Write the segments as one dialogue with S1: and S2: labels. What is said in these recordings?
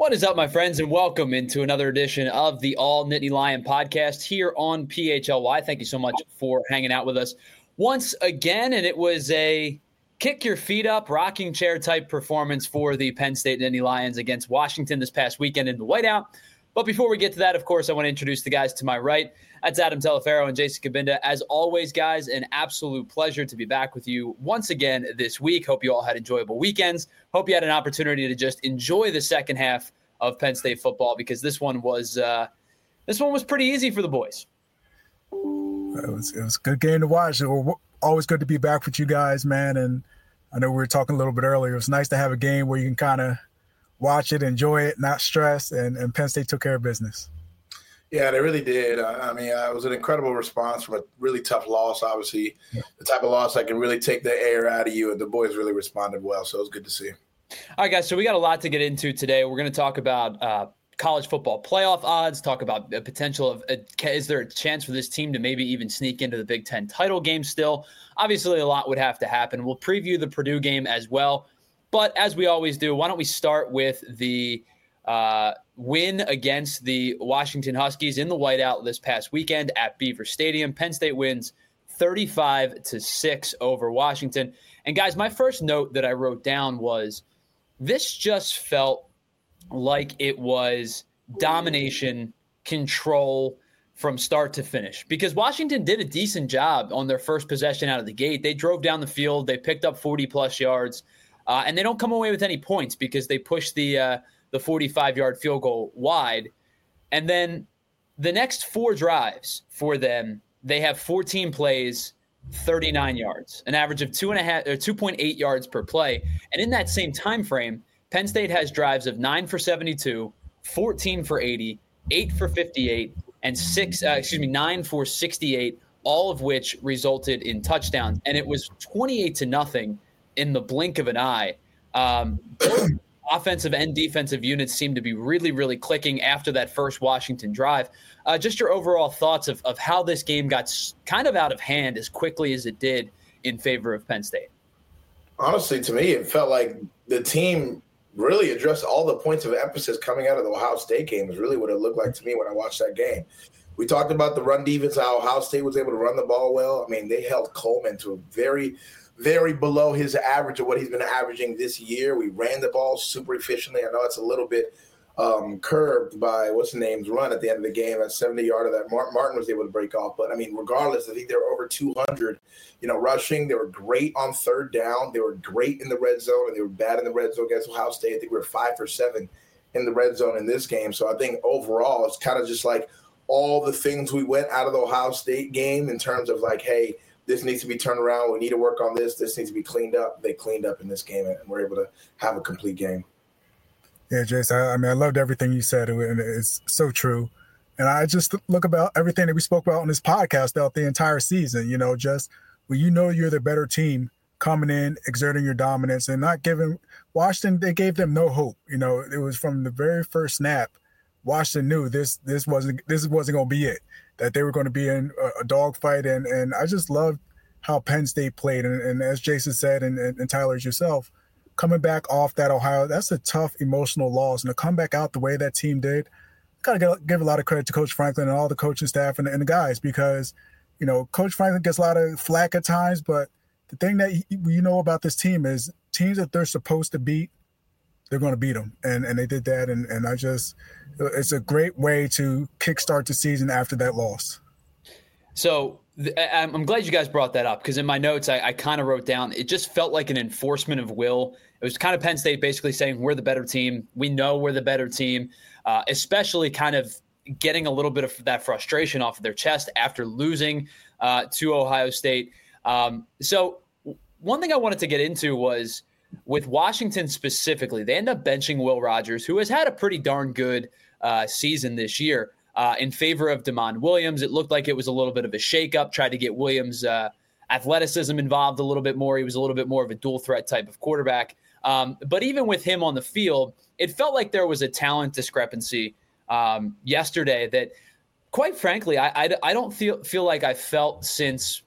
S1: What is up, my friends, and welcome into another edition of the All Nittany Lion podcast here on PHLY. Thank you so much for hanging out with us once again, and it was a kick your feet up, rocking chair type performance for the Penn State Nittany Lions against Washington this past weekend in the whiteout. But before we get to that, of course, I want to introduce the guys to my right. That's Adam Telefero and Jason Cabinda. As always, guys, an absolute pleasure to be back with you once again this week. Hope you all had enjoyable weekends. Hope you had an opportunity to just enjoy the second half of Penn State football, because this one was pretty easy for the boys.
S2: It was a good game to watch. It was always good to be back with you guys, man. And I know we were talking a little bit earlier. It was nice to have a game where you can kind of watch it, enjoy it, not stress, and Penn State took care of business.
S3: Yeah, they really did. It was an incredible response from a really tough loss, obviously. Yeah. The type of loss that can really take the air out of you, and the boys really responded well, so it was good to see.
S1: All right, guys, so we got a lot to get into today. We're going to talk about college football playoff odds, talk about the potential of is there a chance for this team to maybe even sneak into the Big Ten title game still? Obviously, a lot would have to happen. We'll preview the Purdue game as well. But as we always do, why don't we start with the win against the Washington Huskies in the whiteout this past weekend at Beaver Stadium. Penn State wins 35-6 over Washington. And guys, my first note that I wrote down was this just felt like it was domination, control from start to finish, because Washington did a decent job on their first possession out of the gate. They drove down the field. They picked up 40-plus yards. And they don't come away with any points because they pushed the 45-yard field goal wide. And then the next four drives for them, they have 14 plays, 39 yards, an average of 2.8 yards per play. And in that same time frame, Penn State has drives of 9 for 72, 14 for 80, 8 for 58, and 9 for 68, all of which resulted in touchdowns. And it was 28-0 in the blink of an eye. Both offensive and defensive units seem to be really, really clicking after that first Washington drive. Just your overall thoughts of how this game got kind of out of hand as quickly as it did in favor of Penn State.
S3: Honestly, to me, it felt like the team really addressed all the points of emphasis coming out of the Ohio State game is really what it looked like to me when I watched that game. We talked about the run defense, how Ohio State was able to run the ball well. I mean, they held Coleman to a very below his average of what he's been averaging this year. We ran the ball super efficiently. I know it's a little bit curbed by what's-the-name's run at the end of the game. That 70-yarder that Martin was able to break off. But, I mean, regardless, I think they were over 200, rushing. They were great on third down. They were great in the red zone, and they were bad in the red zone against Ohio State. I think we were 5 for 7 in the red zone in this game. So I think overall it's kind of just like all the things we went out of the Ohio State game in terms of like, hey, this needs to be turned around. We need to work on this. This needs to be cleaned up. They cleaned up in this game, and we're able to have a complete game.
S2: Yeah, Jason, I loved everything you said, and it's so true. And I just look about everything that we spoke about on this podcast throughout the entire season, just when you're the better team coming in, exerting your dominance, and not giving – Washington, they gave them no hope. It was from the very first snap, Washington knew this wasn't going to be it, that they were going to be in a dogfight. And I just loved how Penn State played. And as Jason said, and Tyler's yourself, coming back off that Ohio, that's a tough emotional loss. And to come back out the way that team did, got to give a lot of credit to Coach Franklin and all the coaching staff and the guys, because, Coach Franklin gets a lot of flack at times, but the thing that about this team is teams that they're supposed to beat, they're going to beat them. And they did that. And it's a great way to kickstart the season after that loss.
S1: So I'm glad you guys brought that up, because in my notes, I kind of wrote down, it just felt like an enforcement of will. It was kind of Penn State basically saying, we're the better team. We know we're the better team, especially kind of getting a little bit of that frustration off of their chest after losing to Ohio State. So one thing I wanted to get into was with Washington specifically, they end up benching Will Rogers, who has had a pretty darn good season this year, in favor of DeMond Williams. It looked like it was a little bit of a shakeup, tried to get Williams' athleticism involved a little bit more. He was a little bit more of a dual threat type of quarterback. But even with him on the field, it felt like there was a talent discrepancy yesterday that, quite frankly, I don't feel like I felt since,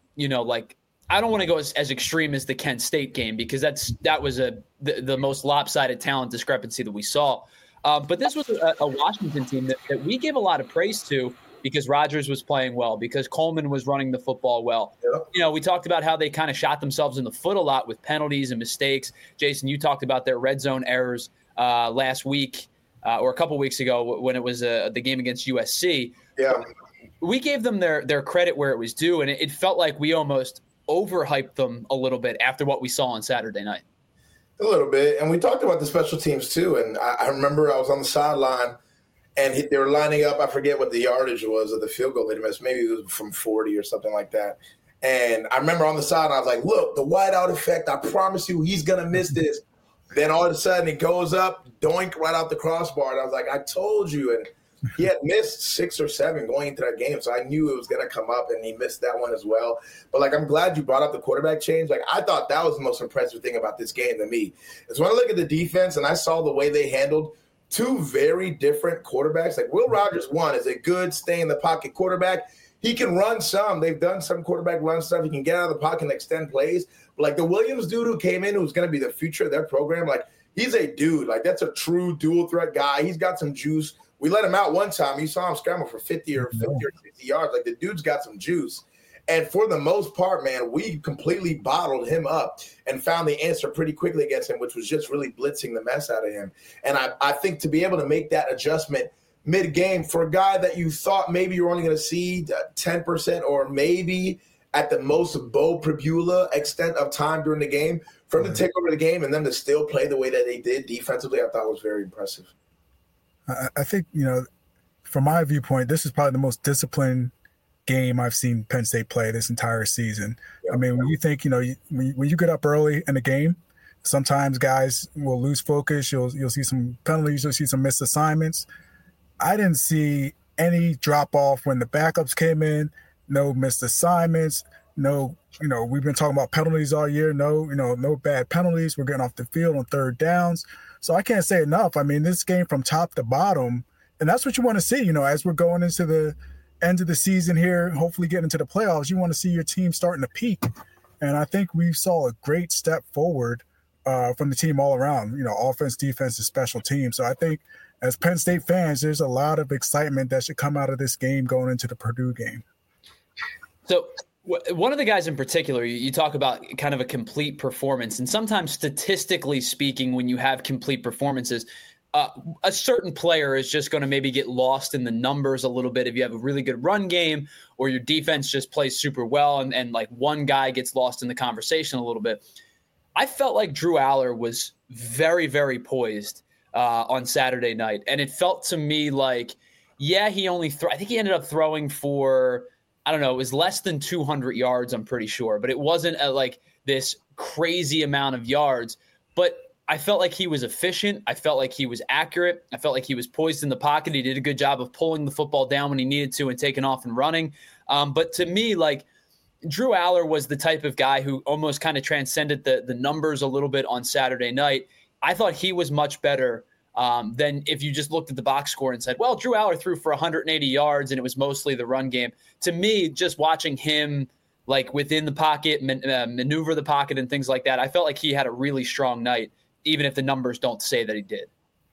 S1: I don't want to go as extreme as the Kent State game, because that was the most lopsided talent discrepancy that we saw. But this was a Washington team that we gave a lot of praise to because Rodgers was playing well, because Coleman was running the football well.
S3: Yep.
S1: We talked about how they kind of shot themselves in the foot a lot with penalties and mistakes. Jason, you talked about their red zone errors last week or a couple weeks ago when it was the game against USC.
S3: Yeah.
S1: We gave them their credit where it was due, and it felt like we almost overhyped them a little bit after what we saw on Saturday night.
S3: A little bit. And we talked about the special teams too. And I remember I was on the sideline and they were lining up. I forget what the yardage was of the field goal they missed. Maybe it was from 40 or something like that. And I remember on the sideline, I was like, look, the whiteout effect, I promise you he's going to miss this. Then all of a sudden it goes up, doink, right out the crossbar. And I was like, I told you. And he had missed 6 or 7 going into that game, so I knew it was going to come up, and he missed that one as well. But, I'm glad you brought up the quarterback change. I thought that was the most impressive thing about this game to me is when I look at the defense and I saw the way they handled 2 very different quarterbacks. Will Rogers, one, is a good stay-in-the-pocket quarterback. He can run some. They've done some quarterback run stuff. He can get out of the pocket and extend plays. But, the Williams dude who came in, who's going to be the future of their program, he's a dude. That's a true dual-threat guy. He's got some juice. We let him out one time. You saw him scramble for 50 or 60 yards. The dude's got some juice. And for the most part, man, we completely bottled him up and found the answer pretty quickly against him, which was just really blitzing the mess out of him. And I think to be able to make that adjustment mid-game for a guy that you thought maybe you were only going to see 10% or maybe at the most Bo Pribula extent of time during the game, for him to take over the game and then to still play the way that they did defensively, I thought was very impressive.
S2: I think, from my viewpoint, this is probably the most disciplined game I've seen Penn State play this entire season. Yep. I mean, when you think, when you get up early in the game, sometimes guys will lose focus. You'll see some penalties. You'll see some missed assignments. I didn't see any drop-off when the backups came in, no missed assignments, no, we've been talking about penalties all year. No bad penalties. We're getting off the field on third downs. So I can't say enough. I mean, this game from top to bottom, and that's what you want to see, as we're going into the end of the season here, hopefully getting into the playoffs, you want to see your team starting to peak. And I think we saw a great step forward from the team all around, offense, defense, and special teams. So I think as Penn State fans, there's a lot of excitement that should come out of this game going into the Purdue game. So
S1: one of the guys in particular, you talk about kind of a complete performance, and sometimes statistically speaking, when you have complete performances, a certain player is just going to maybe get lost in the numbers a little bit if you have a really good run game or your defense just plays super well and one guy gets lost in the conversation a little bit. I felt like Drew Aller was very, very poised on Saturday night, and it felt to me like, he only I think he ended up throwing for – I don't know, it was less than 200 yards, I'm pretty sure, but it wasn't this crazy amount of yards. But I felt like he was efficient. I felt like he was accurate. I felt like he was poised in the pocket. He did a good job of pulling the football down when he needed to and taking off and running. But to me, Drew Aller was the type of guy who almost kind of transcended the numbers a little bit on Saturday night. I thought he was much better than if you just looked at the box score and said, well, Drew Aller threw for 180 yards and it was mostly the run game. To me, just watching him within the pocket, maneuver the pocket and things like that, I felt like he had a really strong night, even if the numbers don't say that he did.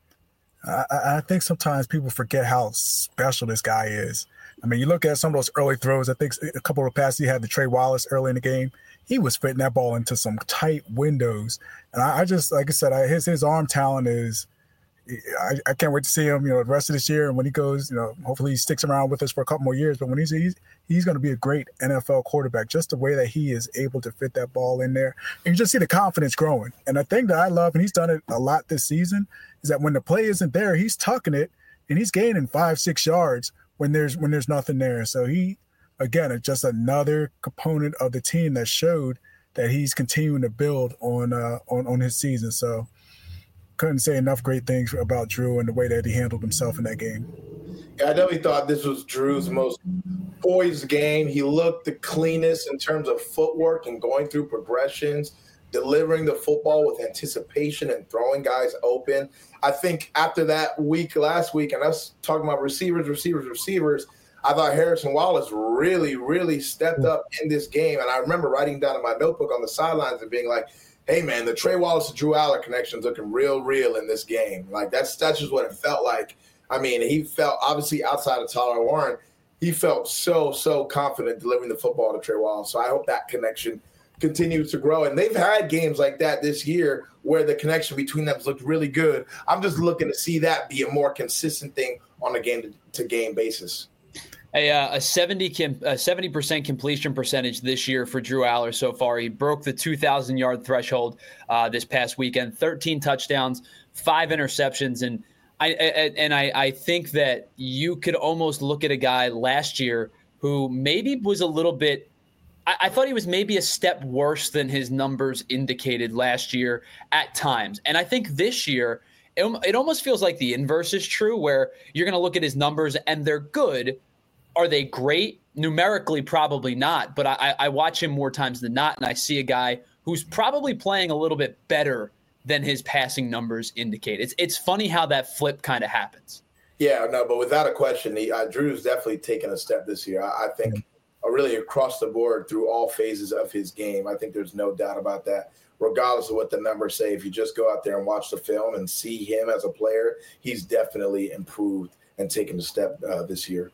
S2: I think sometimes people forget how special this guy is. I mean, you look at some of those early throws. I think a couple of passes he had to Trey Wallace early in the game. He was fitting that ball into some tight windows. And I just, like I said, his arm talent is – I can't wait to see him, the rest of this year. And when he goes, hopefully he sticks around with us for a couple more years. But when he's going to be a great NFL quarterback, just the way that he is able to fit that ball in there. And you just see the confidence growing. And the thing that I love, and he's done it a lot this season, is that when the play isn't there, he's tucking it and he's gaining 5-6 yards when there's nothing there. So he, again, is just another component of the team that showed that he's continuing to build on his season. So couldn't say enough great things about Drew and the way that he handled himself in that game.
S3: Yeah, I definitely thought this was Drew's most poised game. He looked the cleanest in terms of footwork and going through progressions, delivering the football with anticipation and throwing guys open. I think after that last week, and us talking about receivers, I thought Harrison Wallace really, really stepped up in this game. And I remember writing down in my notebook on the sidelines and being like, hey, man, the Trey Wallace to Drew Aller connection's looking real in this game. Like, that's just what it felt like. I mean, he felt, obviously, outside of Tyler Warren, he felt so confident delivering the football to Trey Wallace. So I hope that connection continues to grow. And they've had games like that this year where the connection between them has looked really good. I'm just looking to see that be a more consistent thing on a game-to-game basis.
S1: A 70% completion percentage this year for Drew Aller so far. He broke the 2,000-yard threshold this past weekend. 13 touchdowns, 5 interceptions, and I think that you could almost look at a guy last year who maybe was a little bit. I thought he was maybe a step worse than his numbers indicated last year at times, and I think this year it almost feels like the inverse is true, where you're going to look at his numbers and they're good. Are they great? Numerically, probably not. But I watch him more times than not, and I see a guy who's probably playing a little bit better than his passing numbers indicate. It's funny how that flip kind of happens.
S3: Yeah, no, but without a question, Drew's definitely taken a step this year. I think really across the board through all phases of his game. I think there's no doubt about that. Regardless of what the numbers say, if you just go out there and watch the film and see him as a player, he's definitely improved and taken a step this year.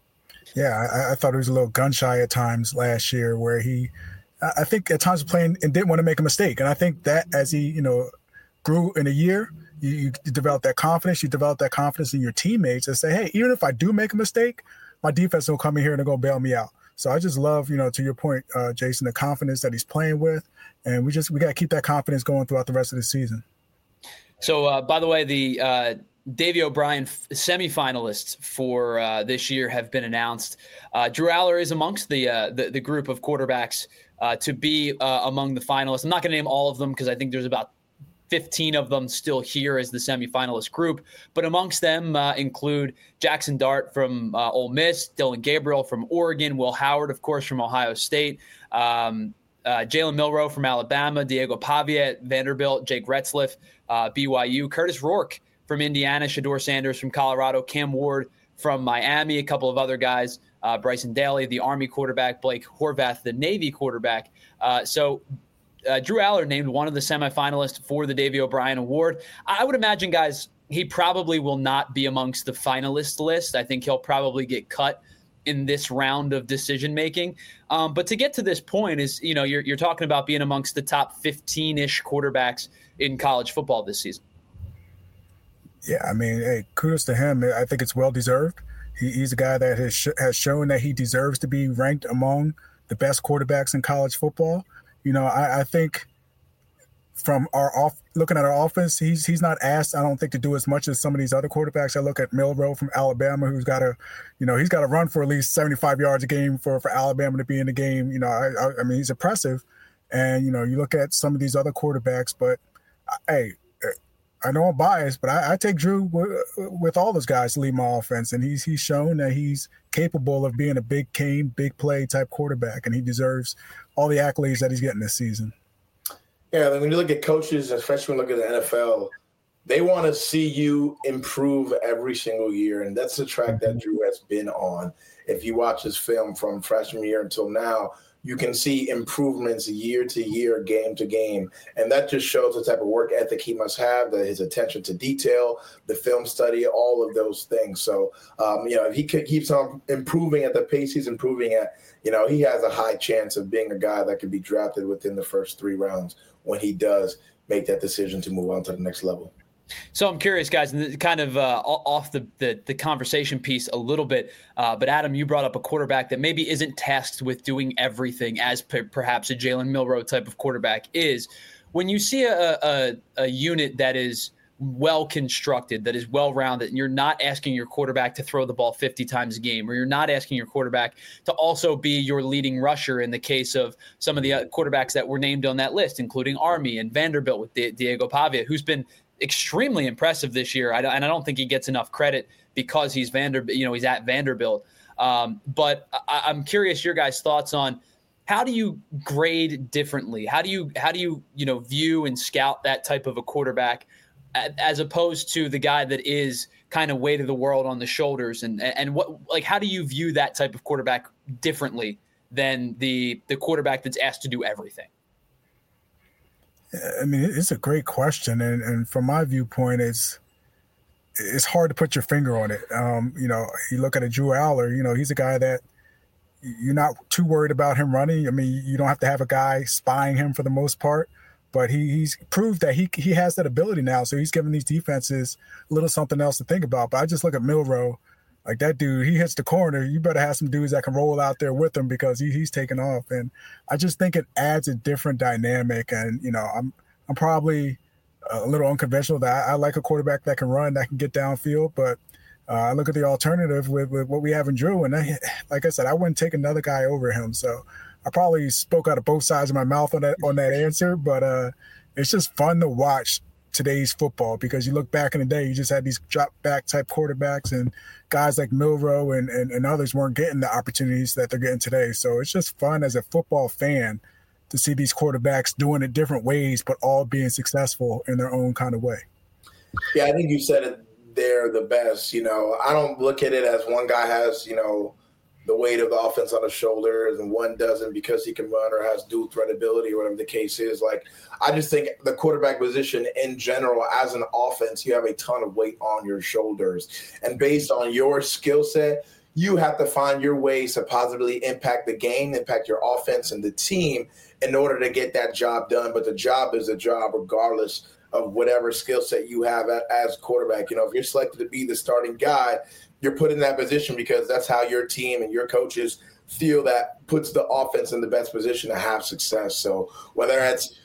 S2: Yeah, I thought he was a little gun shy at times last year, where I think at times playing and didn't want to make a mistake. And I think that as he, grew in a year, you develop that confidence. You develop that confidence in your teammates and say, hey, even if I do make a mistake, my defense will come in here and they're going to bail me out. So I just love, to your point, Jason, the confidence that he's playing with. And we got to keep that confidence going throughout the rest of the season.
S1: So, by the way, the Davey O'Brien semifinalists for this year have been announced. Drew Aller is amongst the group of quarterbacks to be among the finalists. I'm not going to name all of them because I think there's about 15 of them still here as the semifinalist group. But amongst them include Jackson Dart from Ole Miss, Dylan Gabriel from Oregon, Will Howard, of course, from Ohio State, Jalen Milroe from Alabama, Diego Pavia at Vanderbilt, Jake Retzlaff, BYU, Curtis Rourke from Indiana, Shedeur Sanders from Colorado, Cam Ward from Miami, a couple of other guys, Bryson Daly, the Army quarterback, Blake Horvath, the Navy quarterback. So Drew Aller named one of the semifinalists for the Davey O'Brien Award. I would imagine, guys, he probably will not be amongst the finalist list. I think he'll probably get cut in this round of decision-making. But to get to this point is, you're talking about being amongst the top 15-ish quarterbacks in college football this season.
S2: Yeah, I mean, hey, kudos to him. I think it's well-deserved. He's a guy that has shown that he deserves to be ranked among the best quarterbacks in college football. I think from looking at our offense, he's not asked, I don't think, to do as much as some of these other quarterbacks. I look at Milroe from Alabama, who's got to, he's got to run for at least 75 yards a game for Alabama to be in the game. I mean, he's impressive. And, you look at some of these other quarterbacks, but hey, I know I'm biased, but I take Drew with all those guys to lead my offense. And he's shown that he's capable of being a big game, big play type quarterback. And he deserves all the accolades that he's getting this season.
S3: Yeah, when you look at coaches, especially when you look at the NFL, they want to see you improve every single year. And that's the track that Drew has been on. If you watch his film from freshman year until now, you can see improvements year to year, game to game. And that just shows the type of work ethic he must have, his attention to detail, the film study, all of those things. So, if he keeps on improving at the pace he's improving at, he has a high chance of being a guy that could be drafted within the first 3 rounds when he does make that decision to move on to the next level.
S1: So I'm curious, guys, and kind of off the conversation piece a little bit, but Adam, you brought up a quarterback that maybe isn't tasked with doing everything as perhaps a Jalen Milroe type of quarterback is. When you see a unit that is well-constructed, that is well-rounded, and you're not asking your quarterback to throw the ball 50 times a game, or you're not asking your quarterback to also be your leading rusher in the case of some of the quarterbacks that were named on that list, including Army and Vanderbilt with Diego Pavia, who's been extremely impressive this year. And I don't think he gets enough credit because he's he's at Vanderbilt. But I'm curious your guys' thoughts on how do you grade differently? How do you view and scout that type of a quarterback as opposed to the guy that is kind of weight of the world on the shoulders? And what, like, how do you view that type of quarterback differently than the quarterback that's asked to do everything?
S2: I mean, it's a great question, and from my viewpoint, it's hard to put your finger on it. You look at a Drew Aller. He's a guy that you're not too worried about him running. I mean, you don't have to have a guy spying him for the most part, but he's proved that he has that ability now. So he's giving these defenses a little something else to think about. But I just look at Milroe, like that dude. He hits the corner. You better have some dudes that can roll out there with him because he's taking off. And I just think it adds a different dynamic. And I'm probably a little unconventional that I like a quarterback that can run, that can get downfield, but I look at the alternative with what we have in Drew, and like I said, I wouldn't take another guy over him. So I probably spoke out of both sides of my mouth on that answer, but it's just fun to watch today's football because you look back in the day, you just had these drop back type quarterbacks, and guys like Milroe and others weren't getting the opportunities that they're getting today. So it's just fun as a football fan to see these quarterbacks doing it different ways, but all being successful in their own kind of way.
S3: Yeah, I think you said it there the best. I don't look at it as one guy has, the weight of the offense on his shoulders and one doesn't because he can run or has dual threat ability or whatever the case is. Like, I just think the quarterback position in general, as an offense, you have a ton of weight on your shoulders. And based on your skill set, you have to find your ways to positively impact the game, impact your offense and the team in order to get that job done. But the job is a job regardless of whatever skill set you have as quarterback. If you're selected to be the starting guy, you're put in that position because that's how your team and your coaches feel that puts the offense in the best position to have success. So whether it's,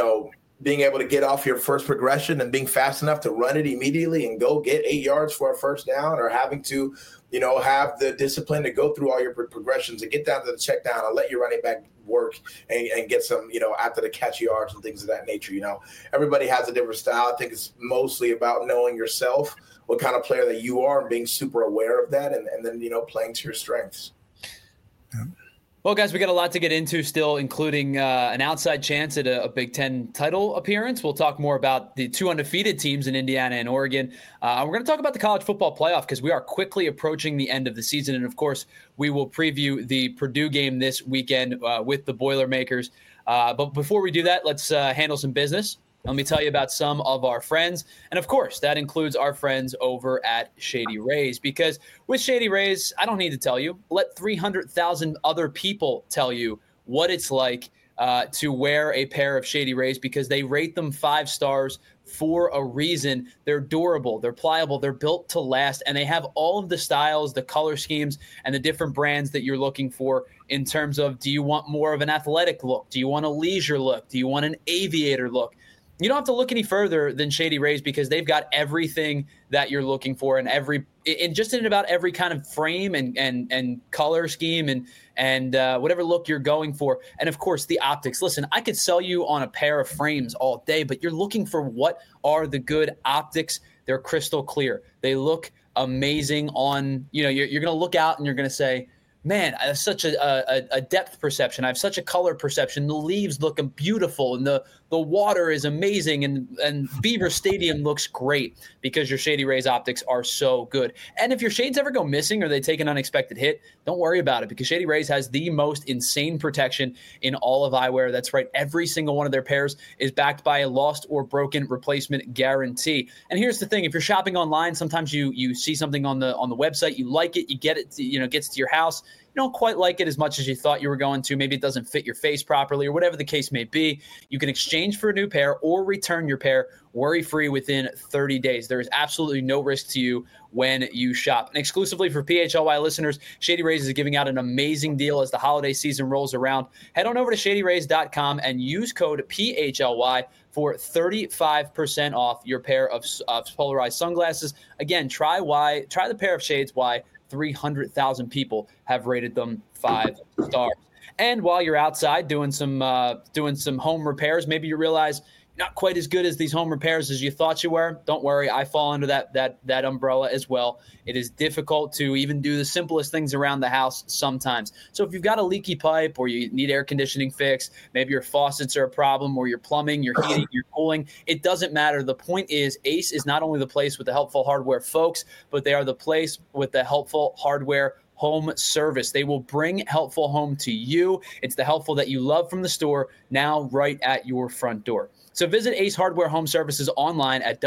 S3: being able to get off your first progression and being fast enough to run it immediately and go get 8 yards for a first down, or having to, have the discipline to go through all your progressions and get down to the check down and let your running back work and get some, after the catch yards and things of that nature. Everybody has a different style. I think it's mostly about knowing yourself, what kind of player that you are, and being super aware of that, and then, playing to your strengths.
S2: Yeah.
S1: Well, guys, we got a lot to get into still, including an outside chance at a Big Ten title appearance. We'll talk more about the two undefeated teams in Indiana and Oregon. We're going to talk about the college football playoff because we are quickly approaching the end of the season. And, of course, we will preview the Purdue game this weekend with the Boilermakers. But before we do that, let's handle some business. Let me tell you about some of our friends. And, of course, that includes our friends over at Shady Rays. Because with Shady Rays, I don't need to tell you. Let 300,000 other people tell you what it's like to wear a pair of Shady Rays, because they rate them 5 stars for a reason. They're durable, they're pliable, they're built to last, and they have all of the styles, the color schemes, and the different brands that you're looking for in terms of, do you want more of an athletic look? Do you want a leisure look? Do you want an aviator look? You don't have to look any further than Shady Rays, because they've got everything that you're looking for in about every kind of frame and color scheme and whatever look you're going for. And of course, the optics. Listen, I could sell you on a pair of frames all day, but you're looking for what are the good optics. They're crystal clear. They look amazing on, you're going to look out and you're going to say, man, I have such a depth perception. I have such a color perception. The leaves look beautiful, and the water is amazing, and Beaver Stadium looks great because your Shady Rays optics are so good. And if your shades ever go missing or they take an unexpected hit, don't worry about it, because Shady Rays has the most insane protection in all of eyewear. That's right. Every single one of their pairs is backed by a lost or broken replacement guarantee. And here's the thing. If you're shopping online, sometimes you see something on the website, you like it, you get it, gets to your house. You don't quite like it as much as you thought you were going to. Maybe it doesn't fit your face properly, or whatever the case may be. You can exchange for a new pair or return your pair worry-free within 30 days. There is absolutely no risk to you when you shop. And exclusively for PHLY listeners, Shady Rays is giving out an amazing deal as the holiday season rolls around. Head on over to shadyrays.com and use code PHLY for 35% off your pair of polarized sunglasses. Again, try the pair of shades why 300,000 people have rated them 5 stars. And while you're outside doing some home repairs, maybe you realize you're not quite as good as these home repairs as you thought you were. Don't worry, I fall under that umbrella as well. It is difficult to even do the simplest things around the house sometimes. So if you've got a leaky pipe, or you need air conditioning fixed, maybe your faucets are a problem, or your plumbing, your heating, your cooling, it doesn't matter. The point is, Ace is not only the place with the helpful hardware folks, but they are the place with the helpful hardware Home Service. They will bring Helpful Home to you. It's the Helpful that you love from the store, now right at your front door. So visit Ace Hardware Home Services online at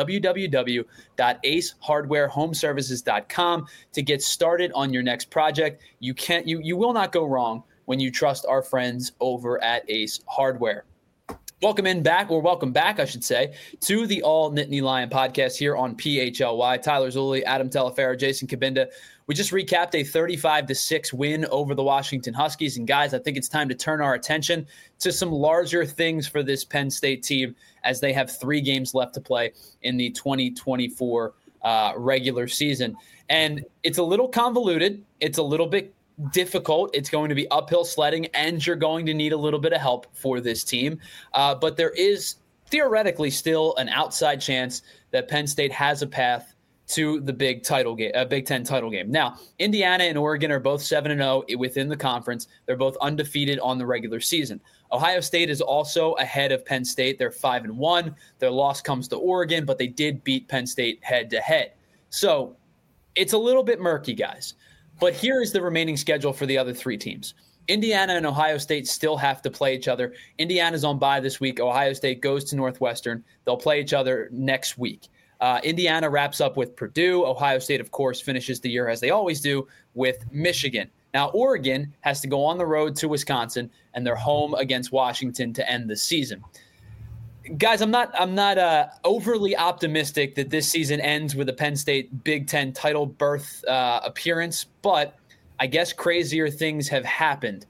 S1: www.acehardwarehomeservices.com to get started on your next project. You will not go wrong when you trust our friends over at Ace Hardware. Welcome back, I should say, to the All Nittany Lion podcast here on PHLY. Tyler Zulli, Adam Telefaro, Jason Cabinda. We just recapped a 35-6 win over the Washington Huskies. And guys, I think it's time to turn our attention to some larger things for this Penn State team as they have 3 games left to play in the 2024 regular season. And it's a little convoluted. It's a little bit difficult. It's going to be uphill sledding, and you're going to need a little bit of help for this team. But there is theoretically still an outside chance that Penn State has a path to the Big Ten title game. Now, Indiana and Oregon are both 7-0 within the conference. They're both undefeated on the regular season. Ohio State is also ahead of Penn State. They're 5-1. Their loss comes to Oregon, but they did beat Penn State head-to-head. So it's a little bit murky, guys. But here is the remaining schedule for the other 3 teams. Indiana and Ohio State still have to play each other. Indiana's on bye this week. Ohio State goes to Northwestern. They'll play each other next week. Indiana wraps up with Purdue. Ohio State, of course, finishes the year, as they always do, with Michigan. Now, Oregon has to go on the road to Wisconsin, and they're home against Washington to end the season. Guys, I'm not overly optimistic that this season ends with a Penn State Big Ten title berth appearance, but I guess crazier things have happened.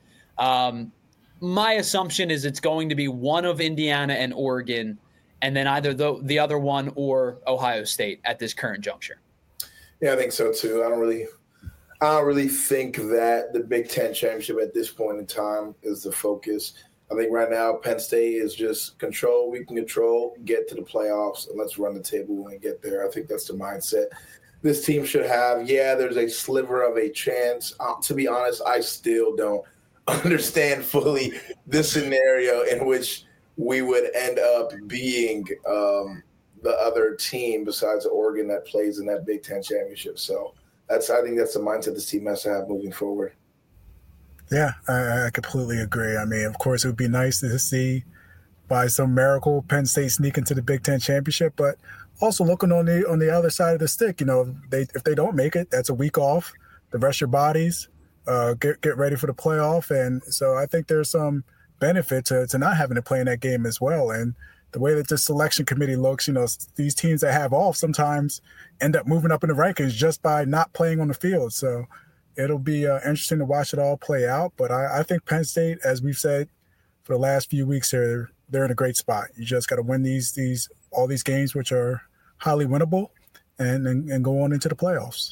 S1: My assumption is it's going to be one of Indiana and Oregon, and then either the other one or Ohio State at this current juncture.
S3: Yeah, I think so too. I don't really think that the Big Ten championship at this point in time is the focus. I think right now Penn State is just control. We can control, get to the playoffs, and let's run the table when we get there. I think that's the mindset this team should have. Yeah, there's a sliver of a chance. To be honest, I still don't understand fully the scenario in which we would end up being the other team besides Oregon that plays in that Big Ten championship. So I think that's the mindset this team has to have moving forward.
S2: Yeah, I completely agree. I mean, of course, it would be nice to see by some miracle Penn State sneak into the Big Ten championship, but also looking on the other side of the stick, if they don't make it, that's a week off. The rest of your bodies, get ready for the playoff, and so I think there's some benefit to not having to play in that game as well. And the way that the selection committee looks, these teams that have off sometimes end up moving up in the rankings just by not playing on the field. So it'll be interesting to watch it all play out. But I think Penn State, as we've said for the last few weeks here, they're in a great spot. You just got to win all these games, which are highly winnable, and go on into the playoffs.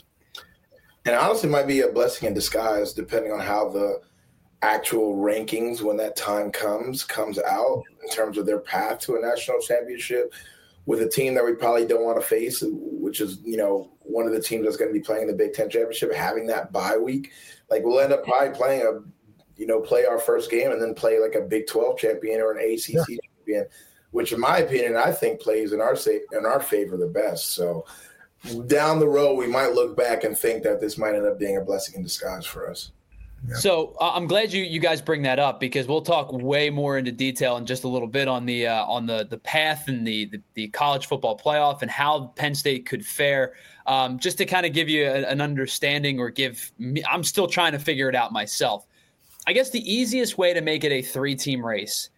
S3: And honestly, might be a blessing in disguise, depending on how the actual rankings, when that time comes out in terms of their path to a national championship with a team that we probably don't want to face, which is, one of the teams that's going to be playing the Big Ten championship, having that bye week. Like, we'll end up probably playing play our first game and then play like a Big 12 champion or an ACC champion, which in my opinion, I think plays in our favor the best. So down the road, we might look back and think that this might end up being a blessing in disguise for us.
S2: Yeah.
S1: So I'm glad you guys bring that up, because we'll talk way more into detail in just a little bit on the path and the college football playoff and how Penn State could fare. Just to kind of give you an understanding, or I'm still trying to figure it out myself. I guess the easiest way to make it a 3-team race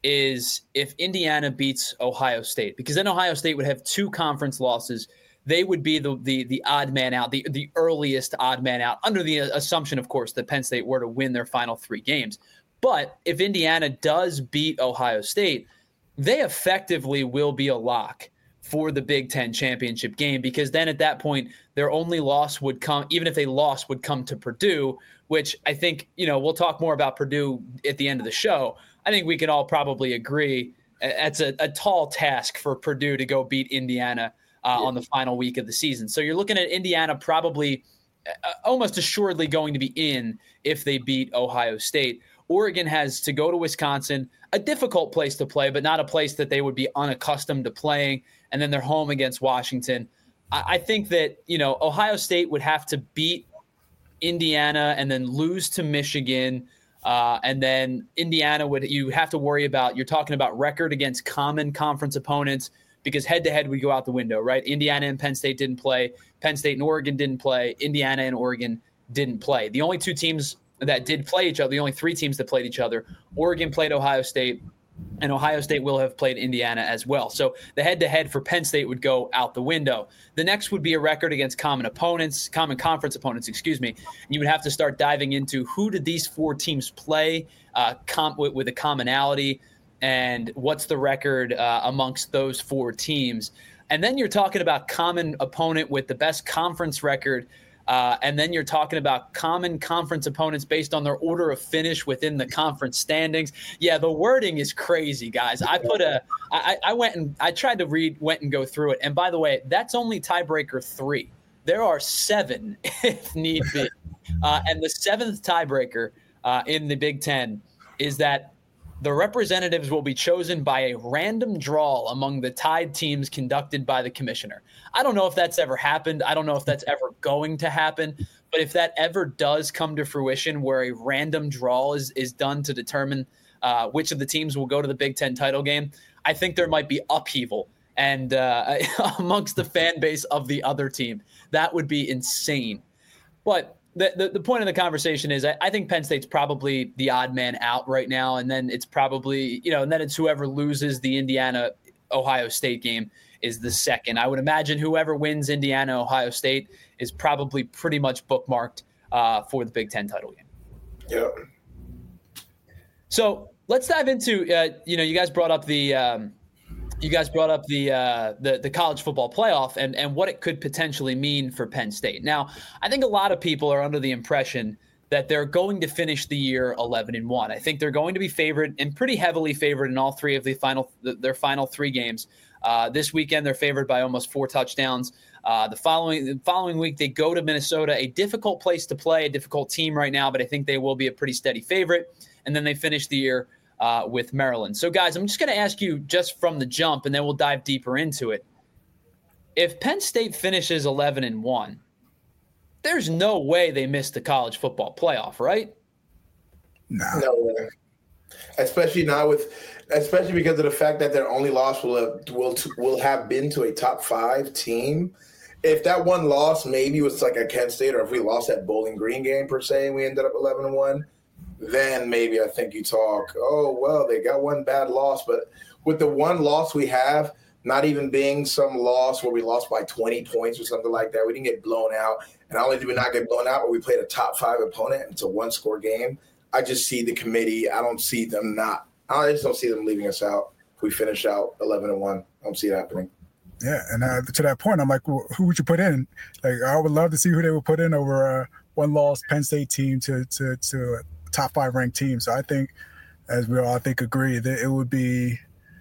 S1: is if Indiana beats Ohio State, because then Ohio State would have 2 conference losses. They would be the odd man out, the earliest odd man out, under the assumption, of course, that Penn State were to win their final 3 games. But if Indiana does beat Ohio State, they effectively will be a lock for the Big Ten championship game, because then at that point, their only loss would come, even if they lost, would come to Purdue, which I think, we'll talk more about Purdue at the end of the show. I think we can all probably agree it's a tall task for Purdue to go beat Indiana on the final week of the season. So you're looking at Indiana probably almost assuredly going to be in if they beat Ohio State. Oregon has to go to Wisconsin, a difficult place to play, but not a place that they would be unaccustomed to playing. And then they're home against Washington. I think that, Ohio State would have to beat Indiana, and then lose to Michigan. And then Indiana you have to worry about, you're talking about record against common conference opponents, because head-to-head we go out the window, right? Indiana and Penn State didn't play. Penn State and Oregon didn't play. Indiana and Oregon didn't play. The only two teams that did play each other, the only three teams that played each other, Oregon played Ohio State, and Ohio State will have played Indiana as well. So the head-to-head for Penn State would go out the window. The next would be a record against common conference opponents, and you would have to start diving into who did these four teams play with a commonality, and what's the record amongst those four teams. And then you're talking about common opponent with the best conference record. And then you're talking about common conference opponents based on their order of finish within the conference standings. Yeah, the wording is crazy, guys. I went and go through it. And by the way, that's only tiebreaker 3. There are 7 if need be. And the 7th tiebreaker in the Big Ten is that the representatives will be chosen by a random draw among the tied teams conducted by the commissioner. I don't know if that's ever happened. I don't know if that's ever going to happen. But if that ever does come to fruition, where a random draw is done to determine which of the teams will go to the Big Ten title game, I think there might be upheaval and amongst the fan base of the other team. That would be insane. But the point of the conversation is I think Penn State's probably the odd man out right now. And then it's probably, and then it's whoever loses the Indiana-Ohio State game is the second. I would imagine whoever wins Indiana-Ohio State is probably pretty much bookmarked for the Big Ten title game.
S3: Yep.
S1: So let's dive into, you guys brought up the college football playoff and what it could potentially mean for Penn State. Now, I think a lot of people are under the impression that they're going to finish the year 11-1. I think they're going to be favored and pretty heavily favored in all three of their final 3 games. This weekend, they're favored by almost 4 touchdowns. The following week, they go to Minnesota, a difficult place to play, a difficult team right now, but I think they will be a pretty steady favorite. And then they finish the year with Maryland. So, guys, I'm just going to ask you just from the jump, and then we'll dive deeper into it. If Penn State finishes 11-1, there's no way they miss the college football playoff, right?
S3: No way. Especially because of the fact that their only loss will have been to a top 5 team. If that one loss maybe was like at Kent State, or if we lost that Bowling Green game per se, and we ended up 11-1. Then maybe I think you talk, oh, well, they got one bad loss. But with the one loss we have, not even being some loss where we lost by 20 points or something like that, we didn't get blown out. And not only did we not get blown out, but we played a top 5 opponent. It's a one-score game. I just see the committee. I just don't see them leaving us out if we finish out 11-1. I don't see it happening.
S2: Yeah, and to that point, I'm like, well, who would you put in? Like, I would love to see who they would put in over a one-loss Penn State team to a top 5 ranked team. So I think, as we all agree, that it would be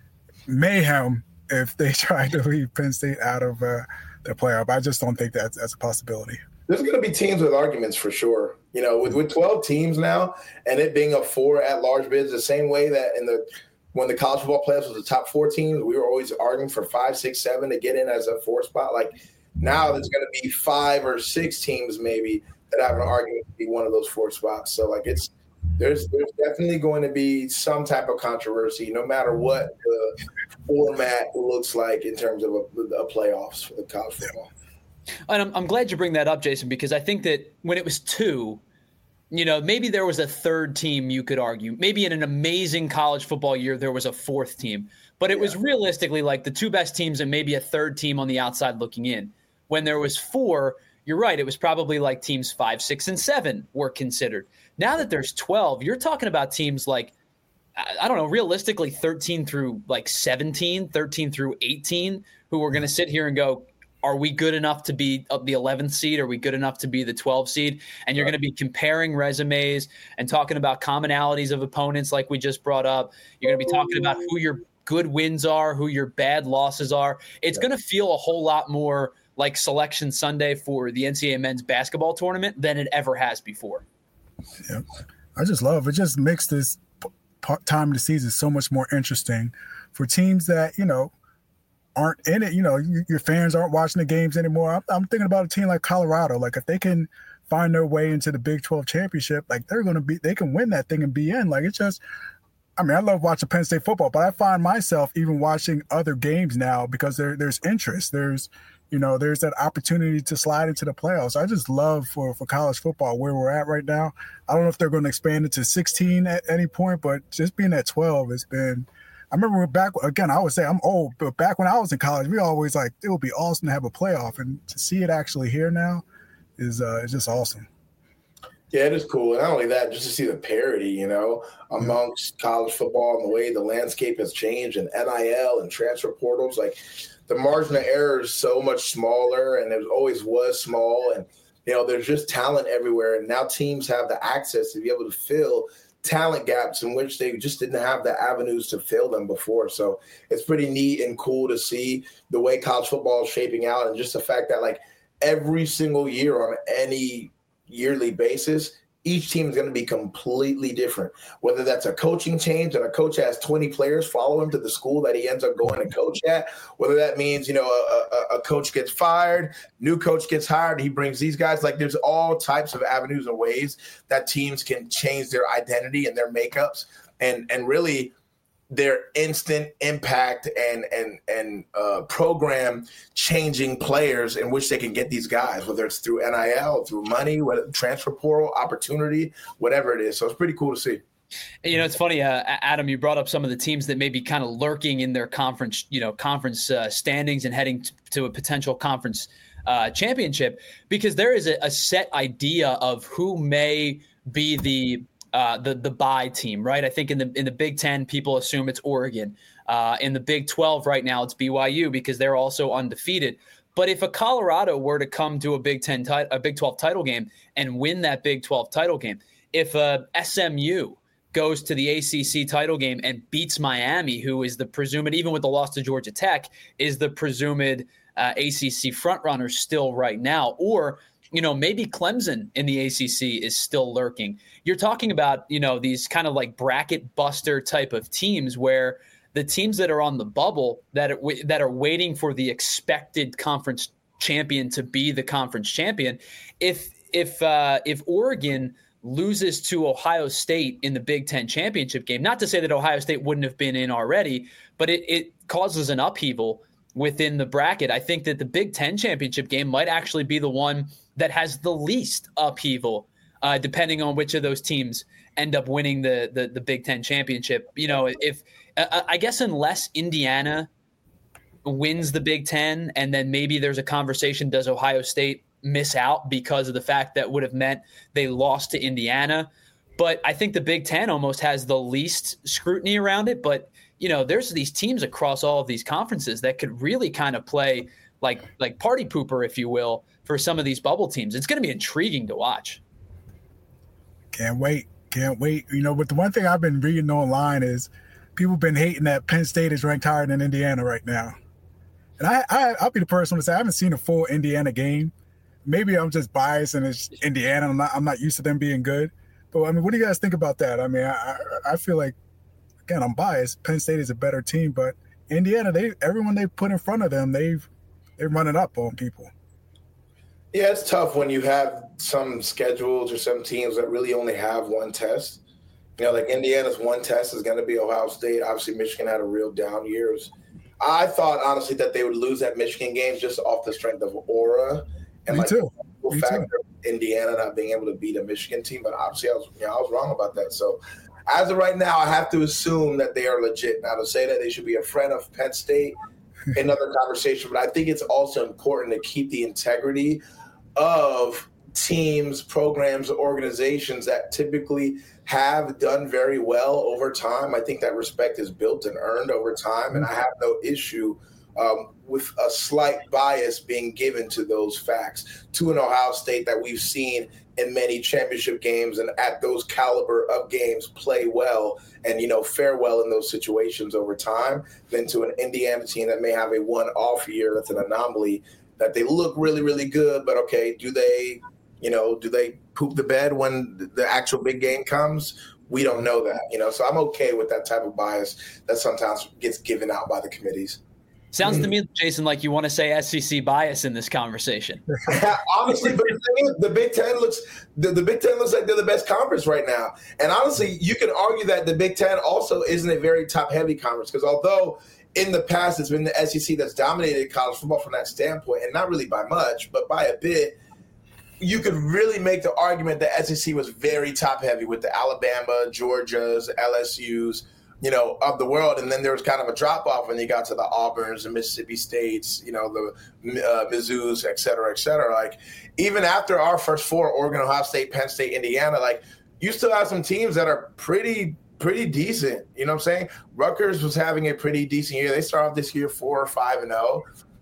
S2: mayhem if they tried to leave Penn State out of the playoff. I just don't think that's a possibility.
S3: There's going to be teams with arguments for sure. With 12 teams now, and it being a 4 at-large bids, the same way that when the college football playoffs was the top 4 teams, we were always arguing for 5, 6, 7 to get in as a 4 spot. Like now, there's going to be 5 or 6 teams maybe that have an argument to be one of those 4 spots. So there's definitely going to be some type of controversy, no matter what the format looks like in terms of a playoffs for the college football.
S1: And I'm glad you bring that up, Jason, because I think that when it was 2, maybe there was a 3rd team you could argue. Maybe in an amazing college football year, there was a 4th team. But it was realistically like the 2 best teams and maybe a 3rd team on the outside looking in. When there was 4, you're right, it was probably like teams 5, 6, and 7 were considered. Now that there's 12, you're talking about teams like, I don't know, realistically 13 through like 17, 13 through 18, who are going to sit here and go, are we good enough to be the 11th seed? Are we good enough to be the 12th seed? And you're going to be comparing resumes and talking about commonalities of opponents like we just brought up. You're going to be talking about who your good wins are, who your bad losses are. It's going to feel a whole lot more like Selection Sunday for the NCAA men's basketball tournament than it ever has before.
S2: Yeah, I just love it. Just makes this time of the season so much more interesting for teams that, aren't in it. Your fans aren't watching the games anymore. I'm thinking about a team like Colorado. Like if they can find their way into the Big 12 championship, like they can win that thing and be in. Like it's just, I mean, I love watching Penn State football, but I find myself even watching other games now because there's interest. There's that opportunity to slide into the playoffs. I just love for college football where we're at right now. I don't know if they're going to expand it to 16 at any point, but just being at 12 has been – I remember back – again, I would say I'm old, but back when I was in college, we always like it would be awesome to have a playoff. And to see it actually here now is just awesome.
S3: Yeah, it is cool. And not only that, just to see the parity, amongst college football and the way the landscape has changed and NIL and transfer portals, like – the margin of error is so much smaller, and it always was small. And, there's just talent everywhere. And now teams have the access to be able to fill talent gaps in which they just didn't have the avenues to fill them before. So it's pretty neat and cool to see the way college football is shaping out, and just the fact that, like, every single year on any yearly basis, each team is going to be completely different, whether that's a coaching change and a coach has 20 players follow him to the school that he ends up going to coach at, whether that means, a coach gets fired, new coach gets hired, he brings these guys. Like, there's all types of avenues and ways that teams can change their identity and their makeups and really their instant impact and program changing players in which they can get these guys, whether it's through NIL, through money, transfer portal opportunity, whatever it is. So it's pretty cool to see.
S1: It's funny, Adam, you brought up some of the teams that may be kind of lurking in their conference standings and heading to a potential conference championship, because there is a set idea of who may be the bye team, right? I think in the Big Ten, people assume it's Oregon. In the Big 12 right now, it's BYU because they're also undefeated. But if a Colorado were to come to a Big 12 title game and win that Big 12 title game, if SMU goes to the ACC title game and beats Miami, who is the presumed, even with the loss to Georgia Tech, is the presumed ACC frontrunner still right now, or maybe Clemson in the ACC is still lurking. You're talking about, these kind of like bracket buster type of teams where the teams that are on the bubble that are waiting for the expected conference champion to be the conference champion. If Oregon loses to Ohio State in the Big Ten championship game, not to say that Ohio State wouldn't have been in already, but it causes an upheaval within the bracket. I think that the Big Ten championship game might actually be the one that has the least upheaval, depending on which of those teams end up winning the Big Ten championship. I guess unless Indiana wins the Big Ten, and then maybe there's a conversation, does Ohio State miss out because of the fact that would have meant they lost to Indiana? But I think the Big Ten almost has the least scrutiny around it. But there's these teams across all of these conferences that could really kind of play like party pooper, if you will, for some of these bubble teams. It's going to be intriguing to watch.
S2: Can't wait. But the one thing I've been reading online is people have been hating that Penn State is ranked higher than Indiana right now. And I'll be the person to say I haven't seen a full Indiana game. Maybe I'm just biased and it's Indiana. I'm not used to them being good. But, I mean, what do you guys think about that? I mean, I feel like, again, I'm biased. Penn State is a better team, but Indiana, everyone they put in front of them, they're running up on people.
S3: Yeah, it's tough when you have some schedules or some teams that really only have one test. Like Indiana's one test is going to be Ohio State. Obviously, Michigan had a real down year. I thought, honestly, that they would lose that Michigan game just off the strength of aura. And
S2: Me too.
S3: The factor of Indiana not being able to beat a Michigan team. But obviously, I was wrong about that. So as of right now, I have to assume that they are legit. Now, to say that they should be a friend of Penn State, another conversation. But I think it's also important to keep the integrity of teams, programs, organizations that typically have done very well over time. I think that respect is built and earned over time, and I have no issue with a slight bias being given to those facts, to an Ohio State that we've seen in many championship games and at those caliber of games play well and, fare well in those situations over time, than to an Indiana team that may have a one-off year that's an anomaly, that they look really, really good, but okay, do they poop the bed when the actual big game comes? We don't know that, so I'm okay with that type of bias that sometimes gets given out by the committees.
S1: Sounds to me, Jason, like you want to say SEC bias in this conversation.
S3: Honestly, but the thing is, the Big Ten looks like they're the best conference right now. And honestly, you can argue that the Big Ten also isn't a very top-heavy conference, because although in the past it's been the SEC that's dominated college football from that standpoint, and not really by much, but by a bit, you could really make the argument that SEC was very top-heavy with the Alabama, Georgias, LSUs, of the world. And then there was kind of a drop-off when you got to the Auburns, the Mississippi States, the Mizzous, et cetera, et cetera. Like, even after our first four, Oregon, Ohio State, Penn State, Indiana, like, you still have some teams that are pretty decent. You know what I'm saying? Rutgers was having a pretty decent year. They started off this year 4-5-0.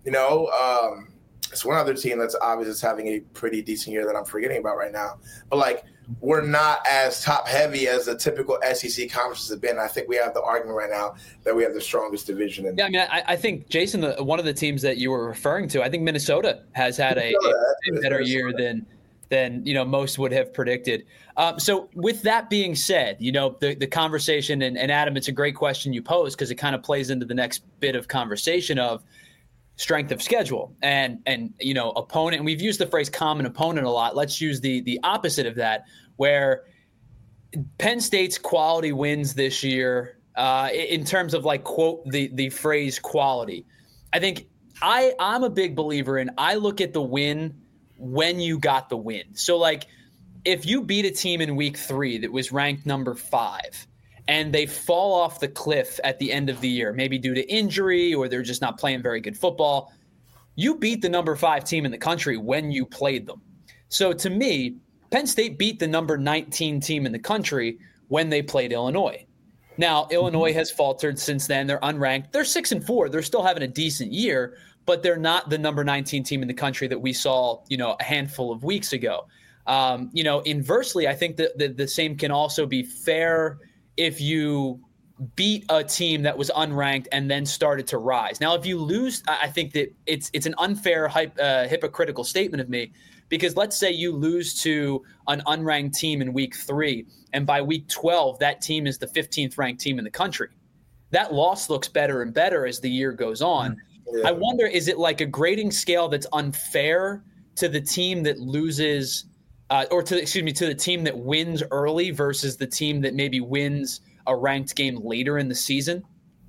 S3: It's one other team that's obviously having a pretty decent year that I'm forgetting about right now. But, like, we're not as top-heavy as the typical SEC conferences have been. I think we have the argument right now that we have the strongest division.
S1: Yeah, I mean, I think, Jason, one of the teams that you were referring to, I think Minnesota has had a better year than most would have predicted. So with that being said, the conversation, and Adam, it's a great question you pose, because it kind of plays into the next bit of conversation of strength of schedule and opponent. And we've used the phrase common opponent a lot. Let's use the opposite of that, where Penn State's quality wins this year, in terms of, like, quote, the phrase quality. I think I'm a big believer in, I look at the win when you got the win. So, like, if you beat a team in week 3 that was ranked number 5, and they fall off the cliff at the end of the year, maybe due to injury or they're just not playing very good football, you beat the number 5 team in the country when you played them. So to me, Penn State beat the number 19 team in the country when they played Illinois. Now, Illinois has faltered since then. They're unranked. They're 6-4. They're still having a decent year, but they're not the number 19 team in the country that we saw, a handful of weeks ago. Inversely, I think that the same can also be fair if you beat a team that was unranked and then started to rise. Now, if you lose, I think that it's an unfair, hypocritical statement of me, because let's say you lose to an unranked team in week 3, and by week 12, that team is the 15th ranked team in the country. That loss looks better and better as the year goes on. Yeah. I wonder, is it like a grading scale that's unfair to the team that loses to the team that wins early versus the team that maybe wins a ranked game later in the season?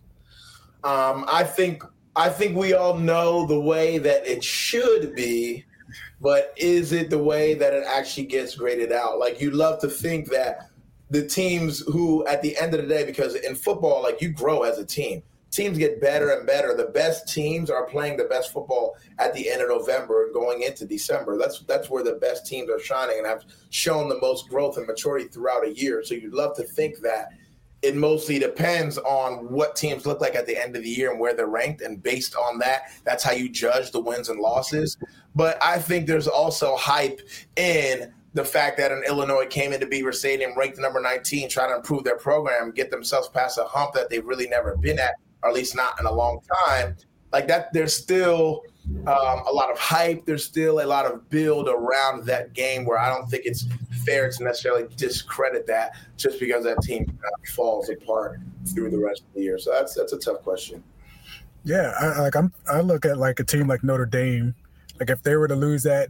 S3: I think we all know the way that it should be, but is it the way that it actually gets graded out? Like, you'd love to think that the teams who, at the end of the day, because in football, like, you grow as a team. Teams get better and better. The best teams are playing the best football at the end of November and going into December. That's where the best teams are shining and have shown the most growth and maturity throughout a year. So you'd love to think that it mostly depends on what teams look like at the end of the year and where they're ranked. And based on that, that's how you judge the wins and losses. But I think there's also hype in the fact that an Illinois came into Beaver Stadium ranked number 19, trying to improve their program, get themselves past a hump that they've really never been at, or at least not in a long time. Like that, there's still a lot of hype. There's still a lot of build around that game, where I don't think it's fair to necessarily discredit that just because that team falls apart through the rest of the year. So that's a tough question.
S2: Yeah, I look at like a team like Notre Dame. Like, if they were to lose that,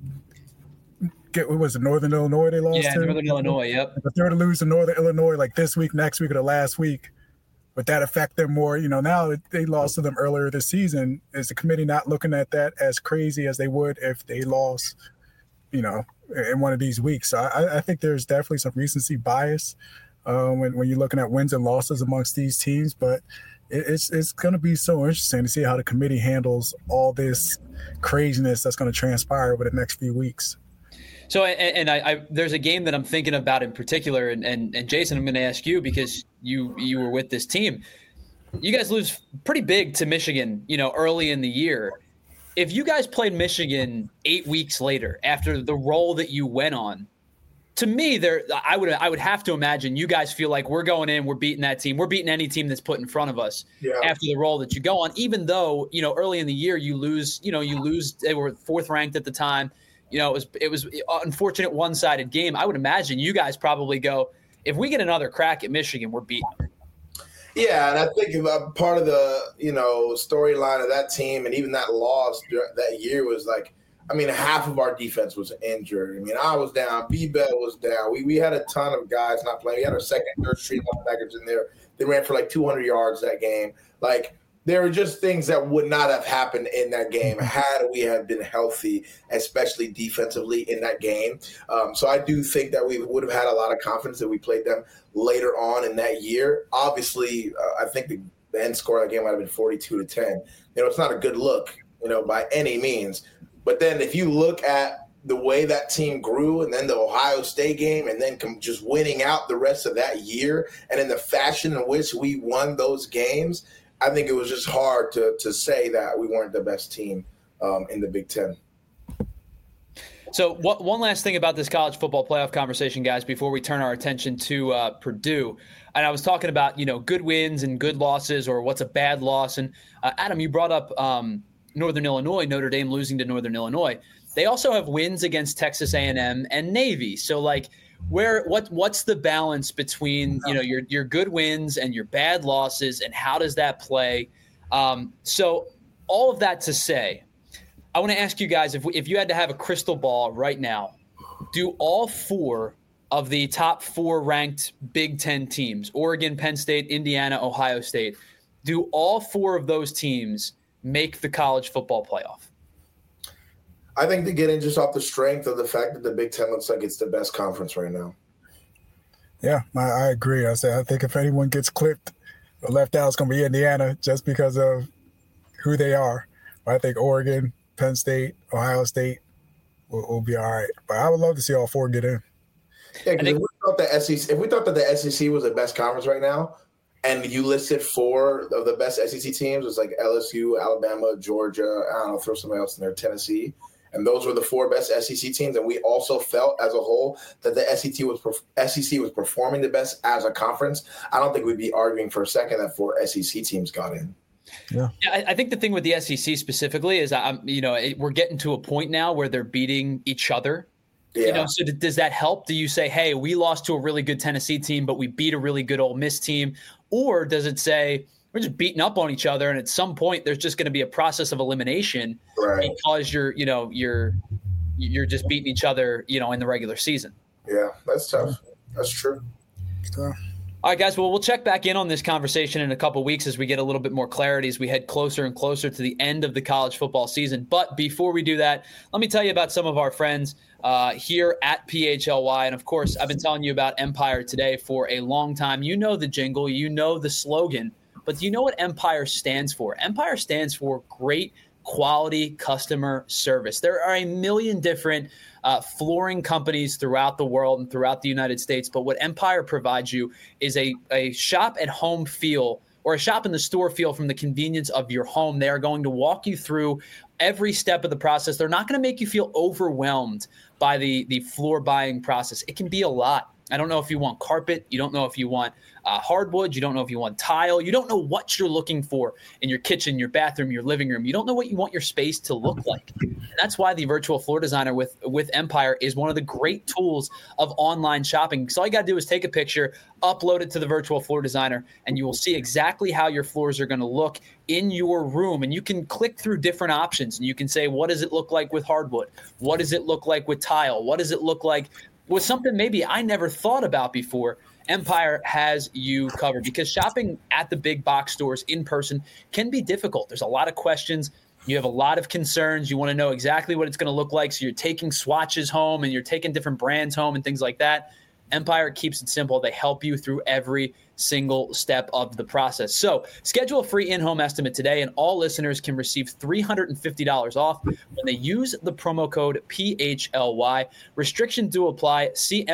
S2: what was it, Northern Illinois they lost to?
S1: Yeah, Northern Illinois, yep.
S2: If they were to lose to Northern Illinois like this week, next week, or the last week, would that affect them more? Now that they lost to them earlier this season, is the committee not looking at that as crazy as they would if they lost, in one of these weeks? So I think there's definitely some recency bias when you're looking at wins and losses amongst these teams. But it's going to be so interesting to see how the committee handles all this craziness that's going to transpire over the next few weeks.
S1: So, and I there's a game that I'm thinking about in particular, and Jason, I'm going to ask you, because you were with this team. You guys lose pretty big to Michigan, early in the year. If you guys played Michigan 8 weeks later after the role that you went on, to me, I would have to imagine you guys feel like we're going in, we're beating that team, we're beating any team that's put in front of us after the role that you go on. Even though early in the year you lose. They were 4th ranked at the time. It was unfortunate one-sided game. I would imagine you guys probably go, if we get another crack at Michigan, we're beating them.
S3: Yeah, and I think part of the storyline of that team and even that loss that year was like, I mean, half of our defense was injured. I mean, I was down, B-Bell was down. We had a ton of guys not playing. We had our second, third string linebackers in there. They ran for like 200 yards that game. Like, there were just things that would not have happened in that game had we have been healthy, especially defensively in that game. So I do think that we would have had a lot of confidence that we played them later on in that year. Obviously, I think the end score of that game might have been 42-10. It's not a good look, by any means. But then if you look at the way that team grew and then the Ohio State game and then just winning out the rest of that year and in the fashion in which we won those games, I think it was just hard to say that we weren't the best team in the Big Ten.
S1: So one last thing about this college football playoff conversation, guys, before we turn our attention to Purdue. And I was talking about, good wins and good losses or what's a bad loss. And Adam, you brought up Northern Illinois, Notre Dame losing to Northern Illinois. They also have wins against Texas A&M and Navy. So, like, what's the balance between your good wins and your bad losses, and how does that play? So all of that to say, I want to ask you guys, if you had to have a crystal ball right now, do all four of the top four ranked Big Ten teams, Oregon, Penn State, Indiana, Ohio State, do all four of those teams make the college football playoff?
S3: I think they get in just off the strength of the fact that the Big Ten looks like it's the best conference right now.
S2: Yeah, I agree. I think if anyone gets clipped or left out, it's going to be Indiana just because of who they are. But I think Oregon, Penn State, Ohio State will be all right. But I would love to see all four get in.
S3: Yeah, because if we thought that the SEC was the best conference right now, and you listed four of the best SEC teams, it's like LSU, Alabama, Georgia, I don't know, throw somebody else in there, Tennessee. And those were the four best SEC teams. And we also felt as a whole that the SEC was performing the best as a conference. I don't think we'd be arguing for a second that four SEC teams got in.
S1: Yeah, I think the thing with the SEC specifically is, we're getting to a point now where they're beating each other.
S3: Yeah.
S1: So does that help? Do you say, hey, we lost to a really good Tennessee team, but we beat a really good Ole Miss team? Or does it say we're just beating up on each other, and at some point there's just going to be a process of elimination because you're just beating each other, in the regular season?
S3: Yeah, that's tough. That's true.
S1: All right, guys. Well, we'll check back in on this conversation in a couple of weeks as we get a little bit more clarity as we head closer and closer to the end of the college football season. But before we do that, let me tell you about some of our friends here at PHLY. And, of course, I've been telling you about Empire Today for a long time. You know the jingle. You know the slogan. But do you know what Empire stands for? Empire stands for great quality customer service. There are a million different flooring companies throughout the world and throughout the United States, but what Empire provides you is a shop-at-home feel, or a shop-in-the-store feel from the convenience of your home. They are going to walk you through every step of the process. They're not going to make you feel overwhelmed by the floor buying process. It can be a lot. I don't know if you want carpet. You don't know if you want hardwood. You don't know if you want tile. You don't know what you're looking for in your kitchen, your bathroom, your living room. You don't know what you want your space to look like. And that's why the virtual floor designer with Empire is one of the great tools of online shopping. So all you got to do is take a picture, upload it to the virtual floor designer, and you will see exactly how your floors are going to look in your room. And you can click through different options, and you can say, what does it look like with hardwood? What does it look like with tile? What does it look like with something maybe I never thought about before? Empire has you covered, because shopping at the big box stores in person can be difficult. There's a lot of questions. You have a lot of concerns. You want to know exactly what it's going to look like. So you're taking swatches home and you're taking different brands home and things like that. Empire keeps it simple. They help you through every single step of the process. So schedule a free in-home estimate today, and all listeners can receive $350 off when they use the promo code PHLY. Restrictions do apply. See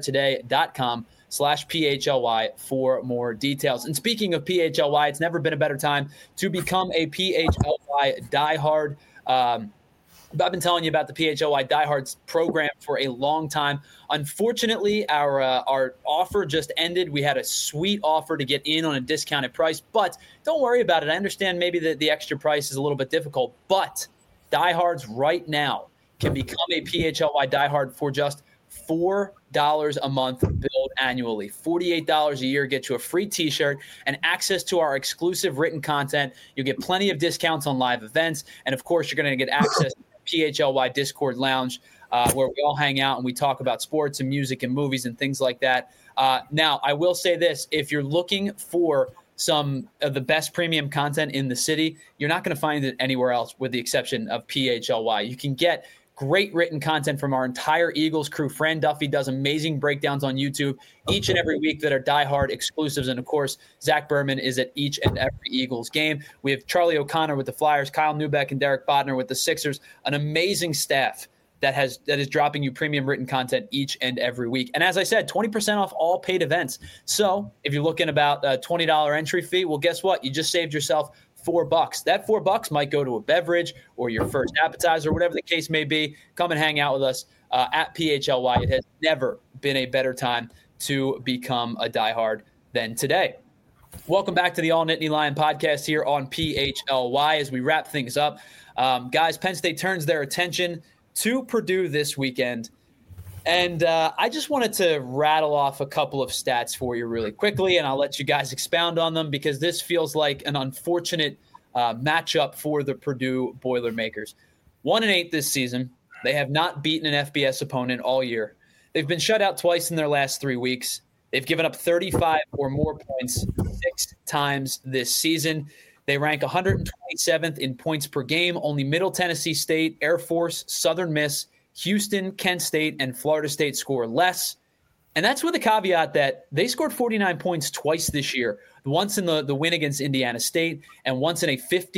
S1: empiretoday.com/PHLY for more details. And speaking of PHLY, it's never been a better time to become a PHLY diehard. I've been telling you about the PHLY Diehards program for a long time. Unfortunately, our offer just ended. We had a sweet offer to get in on a discounted price, but don't worry about it. I understand maybe the extra price is a little bit difficult, but Diehards right now can become a PHLY Diehard for just $4 a month billed annually. $48 a year gets you a free t-shirt and access to our exclusive written content. You'll get plenty of discounts on live events. And, of course, you're going to get access to the PHLY Discord Lounge, where we all hang out and we talk about sports and music and movies and things like that. Now, I will say this. If you're looking for some of the best premium content in the city, you're not going to find it anywhere else with the exception of PHLY. You can get great written content from our entire Eagles crew. Fran Duffy does amazing breakdowns on YouTube each and every week that are diehard exclusives. And, of course, Zach Berman is at each and every Eagles game. We have Charlie O'Connor with the Flyers, Kyle Neubeck and Derek Bodner with the Sixers, an amazing staff that is dropping you premium written content each and every week. And as I said, 20% off all paid events. So if you're looking about a $20 entry fee, well, guess what? You just saved yourself $4. That $4 might go to a beverage or your first appetizer, whatever the case may be. Come and hang out with us at PHLY. It has never been a better time to become a diehard than today. Welcome back to the All Nittany Lion podcast here on PHLY as we wrap things up. Guys, Penn State turns their attention to Purdue this weekend. And I just wanted to rattle off a couple of stats for you really quickly, and I'll let you guys expound on them because this feels like an unfortunate matchup for the Purdue Boilermakers. 1-8 this season. They have not beaten an FBS opponent all year. They've been shut out twice in their last 3 weeks. They've given up 35 or more points 6 times this season. They rank 127th in points per game. Only Middle Tennessee State, Air Force, Southern Miss, Houston, Kent State, and Florida State score less. And that's with a caveat that they scored 49 points twice this year, once in the win against Indiana State and once in a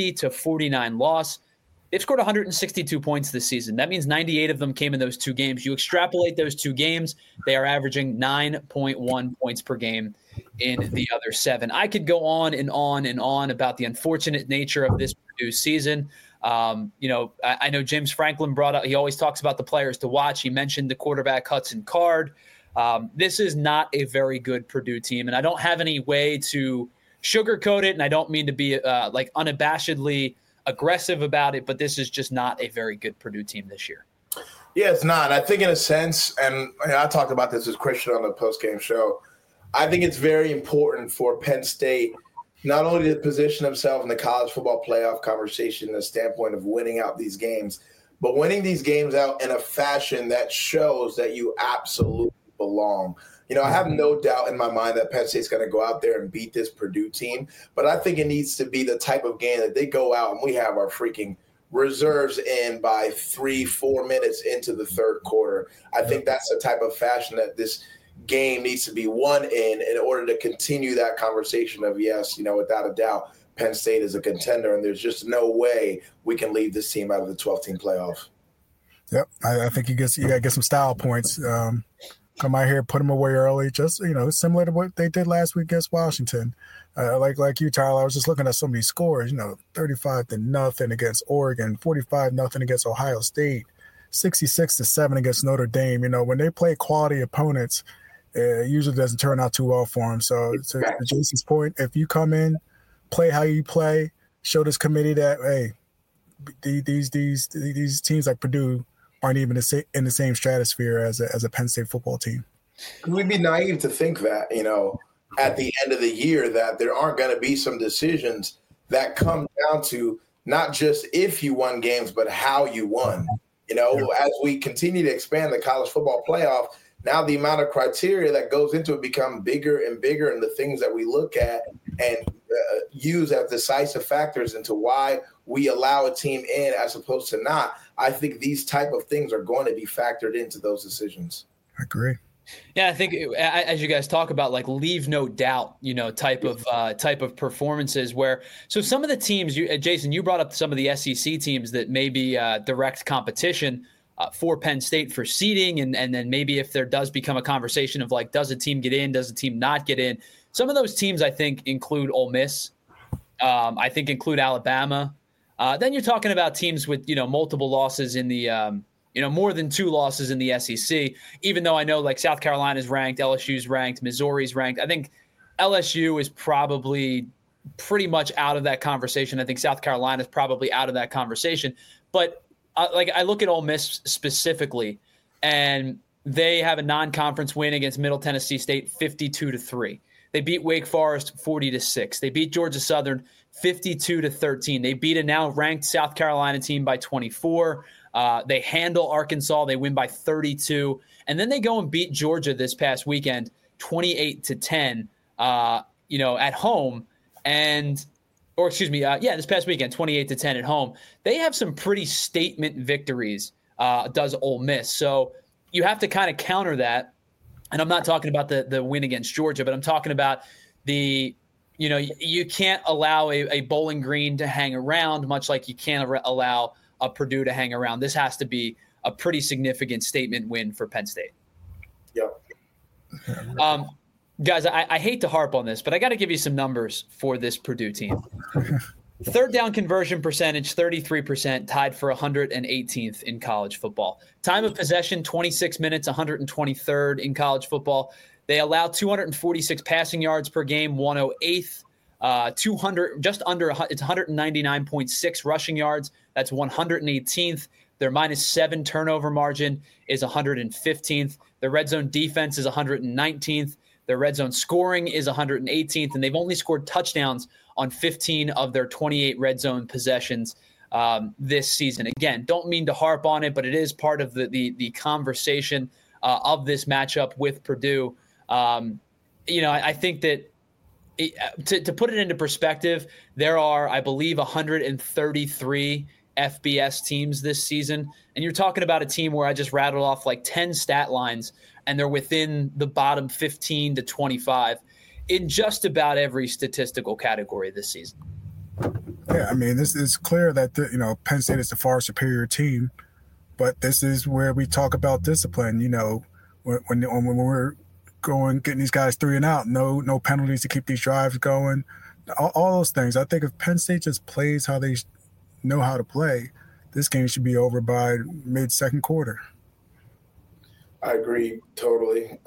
S1: 50-49 loss. They've scored 162 points this season. That means 98 of them came in those 2 games. You extrapolate those 2 games, they are averaging 9.1 points per game in the other 7. I could go on and on and on about the unfortunate nature of this Purdue season. I know James Franklin brought up, he always talks about the players to watch. He mentioned the quarterback Hudson Card. This is not a very good Purdue team, and I don't have any way to sugarcoat it, and I don't mean to be unabashedly aggressive about it, but this is just not a very good Purdue team this year.
S3: Yeah, it's not. I think in a sense, and I talked about this with Christian on the postgame show, I think it's very important for Penn State not only to position themselves in the college football playoff conversation in the standpoint of winning out these games, but winning these games out in a fashion that shows that you absolutely belong. I have no doubt in my mind that Penn State's going to go out there and beat this Purdue team, but I think it needs to be the type of game that they go out and we have our freaking reserves in by 3-4 minutes into the third quarter. I think that's the type of fashion that this game needs to be won in order to continue that conversation of, yes, without a doubt, Penn State is a contender, and there's just no way we can leave this team out of the 12-team playoff. Yep,
S2: I think you got to get some style points. Come out here, put them away early, just, similar to what they did last week against Washington. Like you, Tyler, I was just looking at some of these scores, 35-0 against Oregon, 45-0 against Ohio State, 66-7 against Notre Dame. When they play quality opponents, it usually doesn't turn out too well for them. So to Jason's point, if you come in, play how you play, show this committee that, hey, these teams like Purdue aren't even in the same stratosphere as a Penn State football team.
S3: We'd be naive to think that, at the end of the year that there aren't going to be some decisions that come down to not just if you won games, but how you won. As we continue to expand the college football playoff, now the amount of criteria that goes into it become bigger and bigger, and the things that we look at and use as decisive factors into why we allow a team in as opposed to not. I think these type of things are going to be factored into those decisions.
S2: I agree.
S1: Yeah, I think as you guys talk about, like, leave no doubt, type of performances where, so some of the teams, Jason, you brought up some of the SEC teams that may be direct competition for Penn State for seeding. And then maybe if there does become a conversation of, like, does a team get in, does a team not get in? Some of those teams, I think, include Ole Miss. I think include Alabama. Then you're talking about teams with, multiple losses in the more than 2 losses in the SEC, even though I know, like, South Carolina's ranked, LSU's ranked, Missouri's ranked. I think LSU is probably pretty much out of that conversation. I think South Carolina's probably out of that conversation. But, I look at Ole Miss specifically, and they have a non-conference win against Middle Tennessee State, 52-3. They beat Wake Forest 40-6. They beat Georgia Southern 52-13. They beat a now ranked South Carolina team by 24. They handle Arkansas. They win by 32. And then they go and beat Georgia this past weekend, 28-10, at home. This past weekend, 28-10 at home. They have some pretty statement victories, does Ole Miss. So you have to kind of counter that. And I'm not talking about the win against Georgia, but I'm talking about you can't allow a Bowling Green to hang around, much like you can't allow a Purdue to hang around. This has to be a pretty significant statement win for Penn State.
S3: Yep.
S1: Guys, I hate to harp on this, but I got to give you some numbers for this Purdue team. Third down conversion percentage, 33%, tied for 118th in college football. Time of possession, 26 minutes, 123rd in college football. They allow 246 passing yards per game, 108th. 200, just under, it's 199.6 rushing yards. That's 118th. Their -7 turnover margin is 115th. Their red zone defense is 119th. Their red zone scoring is 118th, and they've only scored touchdowns on 15 of their 28 red zone possessions this season. Again, don't mean to harp on it, but it is part of the conversation of this matchup with Purdue. I think that to put it into perspective, there are, I believe, 133 FBS teams this season, and you're talking about a team where I just rattled off like 10 stat lines, and they're within the bottom 15 to 25 in just about every statistical category this season.
S2: Yeah, I mean, this is clear that Penn State is the far superior team, but this is where we talk about discipline. When we're getting these guys 3 and out, no penalties to keep these drives going, all those things. I think if Penn State just plays how they know how to play, this game should be over by mid-second quarter.
S3: I agree totally.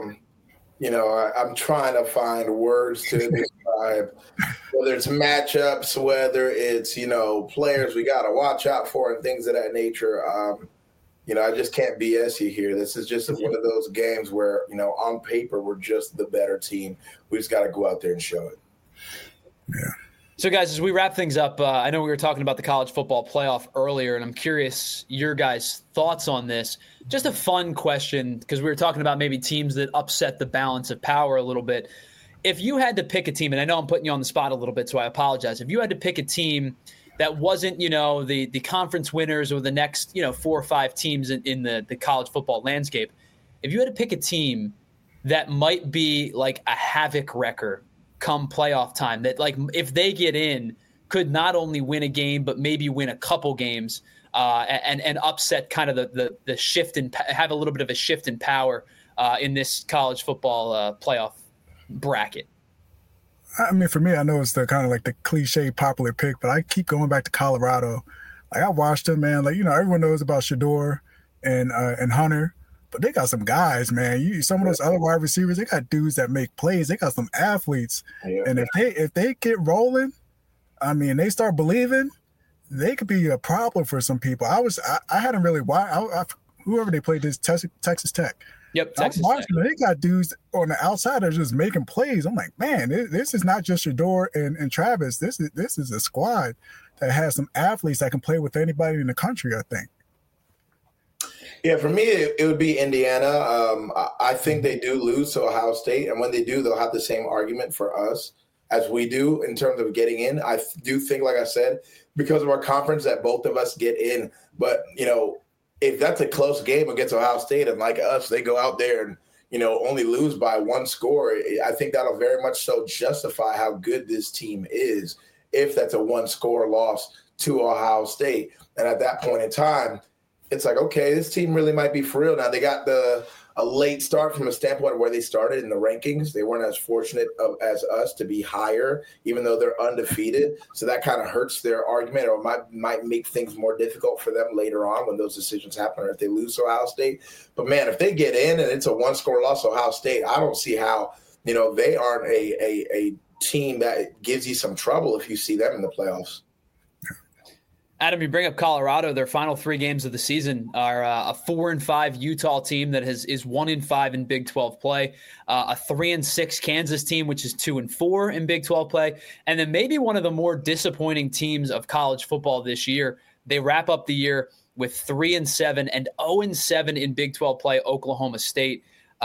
S3: I'm trying to find words to describe whether it's matchups, whether it's, players we got to watch out for and things of that nature. I just can't BS you here. This is just one of those games where, on paper, we're just the better team. We just got to go out there and show it.
S2: Yeah.
S1: So, guys, as we wrap things up, I know we were talking about the college football playoff earlier, and I'm curious your guys' thoughts on this. Just a fun question, because we were talking about maybe teams that upset the balance of power a little bit. If you had to pick a team, and I know I'm putting you on the spot a little bit, so I apologize. If you had to pick a team that wasn't, the conference winners or the next, 4 or 5 teams in the college football landscape, if you had to pick a team that might be like a havoc wrecker come playoff time, that like if they get in could not only win a game but maybe win a couple games and upset kind of the shift and have a little bit of a shift in power in this college football playoff bracket.
S2: I mean, for me, I know it's the kind of like the cliche popular pick, but I keep going back to Colorado. Like, I watched them, man. Like, everyone knows about Shedeur and Hunter, but they got some guys, man. Some of those other wide receivers, they got dudes that make plays. They got some athletes, and if they get rolling, I mean, they start believing, they could be a problem for some people. I hadn't really watched whoever they played this Texas Tech.
S1: Yep, Texas Tech.
S2: They got dudes on the outside that are just making plays. I'm like, man, this is not just Shedeur and Travis. This is a squad that has some athletes that can play with anybody in the country, I think.
S3: Yeah, for me, it would be Indiana. I think they do lose to Ohio State, and when they do, they'll have the same argument for us as we do in terms of getting in. I do think, like I said, because of our conference, that both of us get in. But, if that's a close game against Ohio State and like us, they go out there and, only lose by 1 score, I think that'll very much so justify how good this team is if that's a 1-score loss to Ohio State. And at that point in time, it's like, okay, this team really might be for real. Now, they got a late start from a standpoint of where they started in the rankings. They weren't as fortunate as us to be higher, even though they're undefeated. So that kind of hurts their argument, or might make things more difficult for them later on when those decisions happen, or if they lose to Ohio State. But, man, if they get in and it's a 1-score loss to Ohio State, I don't see how, they aren't a team that gives you some trouble if you see them in the playoffs.
S1: Adam, you bring up Colorado. Their final 3 games of the season are a 4-5 Utah team that is 1-5 in Big 12 play, a 3-6 Kansas team, which is 2-4 in Big 12 play, and then maybe one of the more disappointing teams of college football this year. They wrap up the year with 3-7 and 0-7 in Big 12 play, Oklahoma State.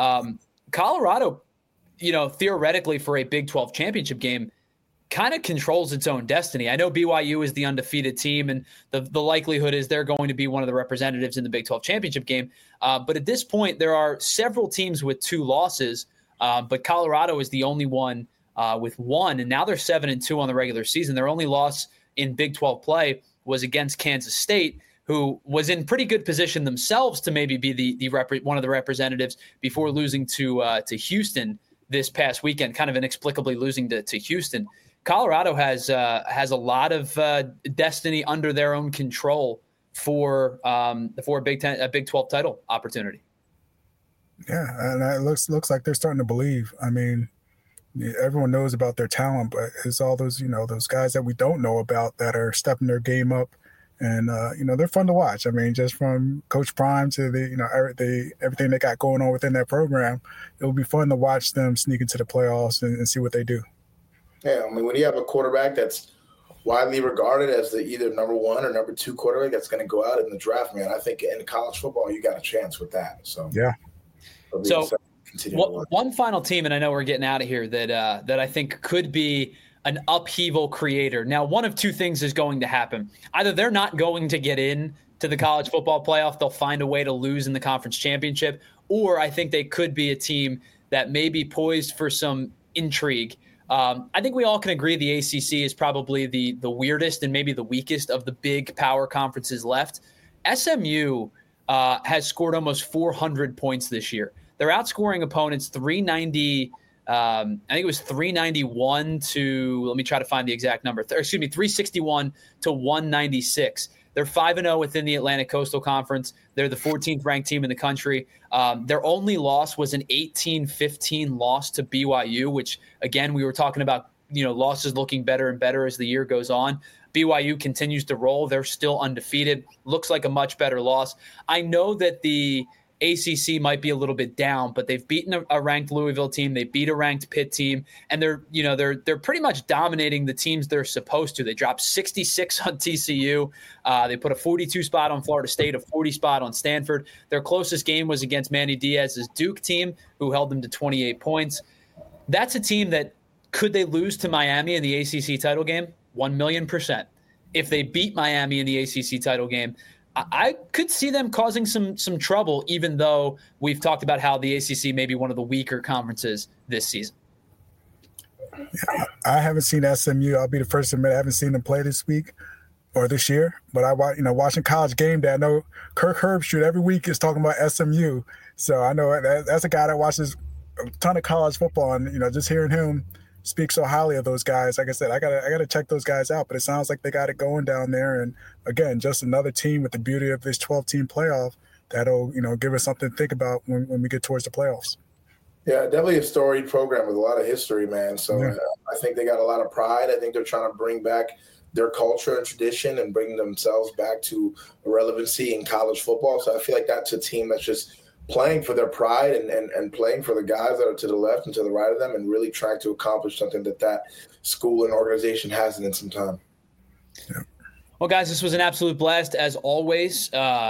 S1: Colorado, theoretically for a Big 12 championship game, kind of controls its own destiny. I know BYU is the undefeated team, and the likelihood is they're going to be one of the representatives in the Big 12 championship game. But at this point, there are several teams with 2 losses, but Colorado is the only one with 1, and now they're 7-2 on the regular season. Their only loss in Big 12 play was against Kansas State, who was in pretty good position themselves to maybe be one of the representatives before losing to Houston this past weekend, kind of inexplicably losing to Houston. Colorado has a lot of destiny under their own control for a Big 12 title opportunity.
S2: Yeah, and it looks like they're starting to believe. I mean, everyone knows about their talent, but it's all those those guys that we don't know about that are stepping their game up, and they're fun to watch. I mean, just from Coach Prime to everything they got going on within that program, it will be fun to watch them sneak into the playoffs and see what they do.
S3: Yeah, I mean, when you have a quarterback that's widely regarded as the either number 1 or number 2 quarterback that's going to go out in the draft, man, I think in college football you got a chance with that. So
S2: yeah.
S1: So one final team, and I know we're getting out of here, that I think could be an upheaval creator. Now, one of 2 things is going to happen. Either they're not going to get in to the college football playoff, they'll find a way to lose in the conference championship, or I think they could be a team that may be poised for some intrigue. I think we all can agree the ACC is probably the weirdest and maybe the weakest of the big power conferences left. SMU has scored almost 400 points this year. They're outscoring opponents 390. I think it was 391 to, let me try to find the exact number. 361 to 196. They're 5-0 within the Atlantic Coastal Conference. They're the 14th ranked team in the country. Their only loss was an 18-15 loss to BYU, which, again, we were talking about, losses looking better and better as the year goes on. BYU continues to roll. They're still undefeated. Looks like a much better loss. I know that the ACC might be a little bit down, but they've beaten a ranked Louisville team. They beat a ranked Pitt team, and they're pretty much dominating the teams they're supposed to. They dropped 66 on TCU. They put a 42 spot on Florida State, a 40 spot on Stanford. Their closest game was against Manny Diaz's Duke team, who held them to 28 points. That's a team that, could they lose to Miami in the ACC title game? 1,000,000%. If they beat Miami in the ACC title game, I could see them causing some trouble, even though we've talked about how the ACC may be one of the weaker conferences this season.
S2: Yeah, I haven't seen SMU. I'll be the first to admit I haven't seen them play this week or this year. But watching College Game Day, I know Kirk Herbstreit every week is talking about SMU. So I know that's a guy that watches a ton of college football, and just hearing him speak so highly of those guys. Like I said, I gotta check those guys out. But it sounds like they got it going down there. And again, just another team with the beauty of this 12-team playoff that'll give us something to think about when we get towards the playoffs.
S3: Yeah, definitely a storied program with a lot of history, man. So
S2: yeah.
S3: I think they got a lot of pride. I think they're trying to bring back their culture and tradition and bring themselves back to relevancy in college football. So I feel like that's a team that's just playing for their pride and playing for the guys that are to the left and to the right of them, and really trying to accomplish something that school and organization hasn't in some time.
S2: Yeah.
S1: Well, guys, this was an absolute blast as always.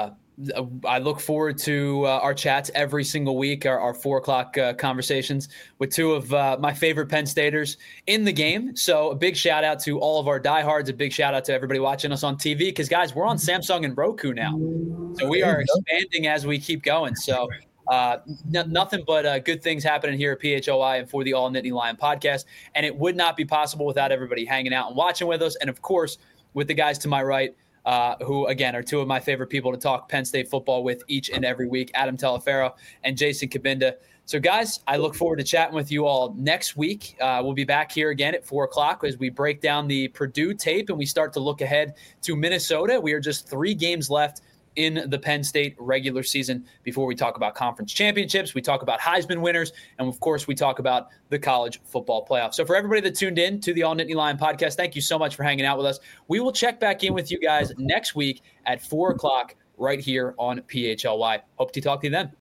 S1: I look forward to our chats every single week, our 4 o'clock conversations with 2 of my favorite Penn Staters in the game. So a big shout out to all of our diehards, a big shout out to everybody watching us on TV, because, guys, we're on Samsung and Roku now. So we are expanding as we keep going. So nothing but good things happening here at PHLI and for the All Nittany Lion podcast. And it would not be possible without everybody hanging out and watching with us. And, of course, with the guys to my right, who, again, are 2 of my favorite people to talk Penn State football with each and every week, Adam Teleferro and Jason Kabinda. So, guys, I look forward to chatting with you all next week. We'll be back here again at 4 o'clock as we break down the Purdue tape and we start to look ahead to Minnesota. We are just 3 games left in the Penn State regular season before we talk about conference championships. We talk about Heisman winners. And, of course, we talk about the college football playoff. So for everybody that tuned in to the All Nittany Lion podcast, thank you so much for hanging out with us. We will check back in with you guys next week at 4 o'clock right here on PHLY. Hope to talk to you then.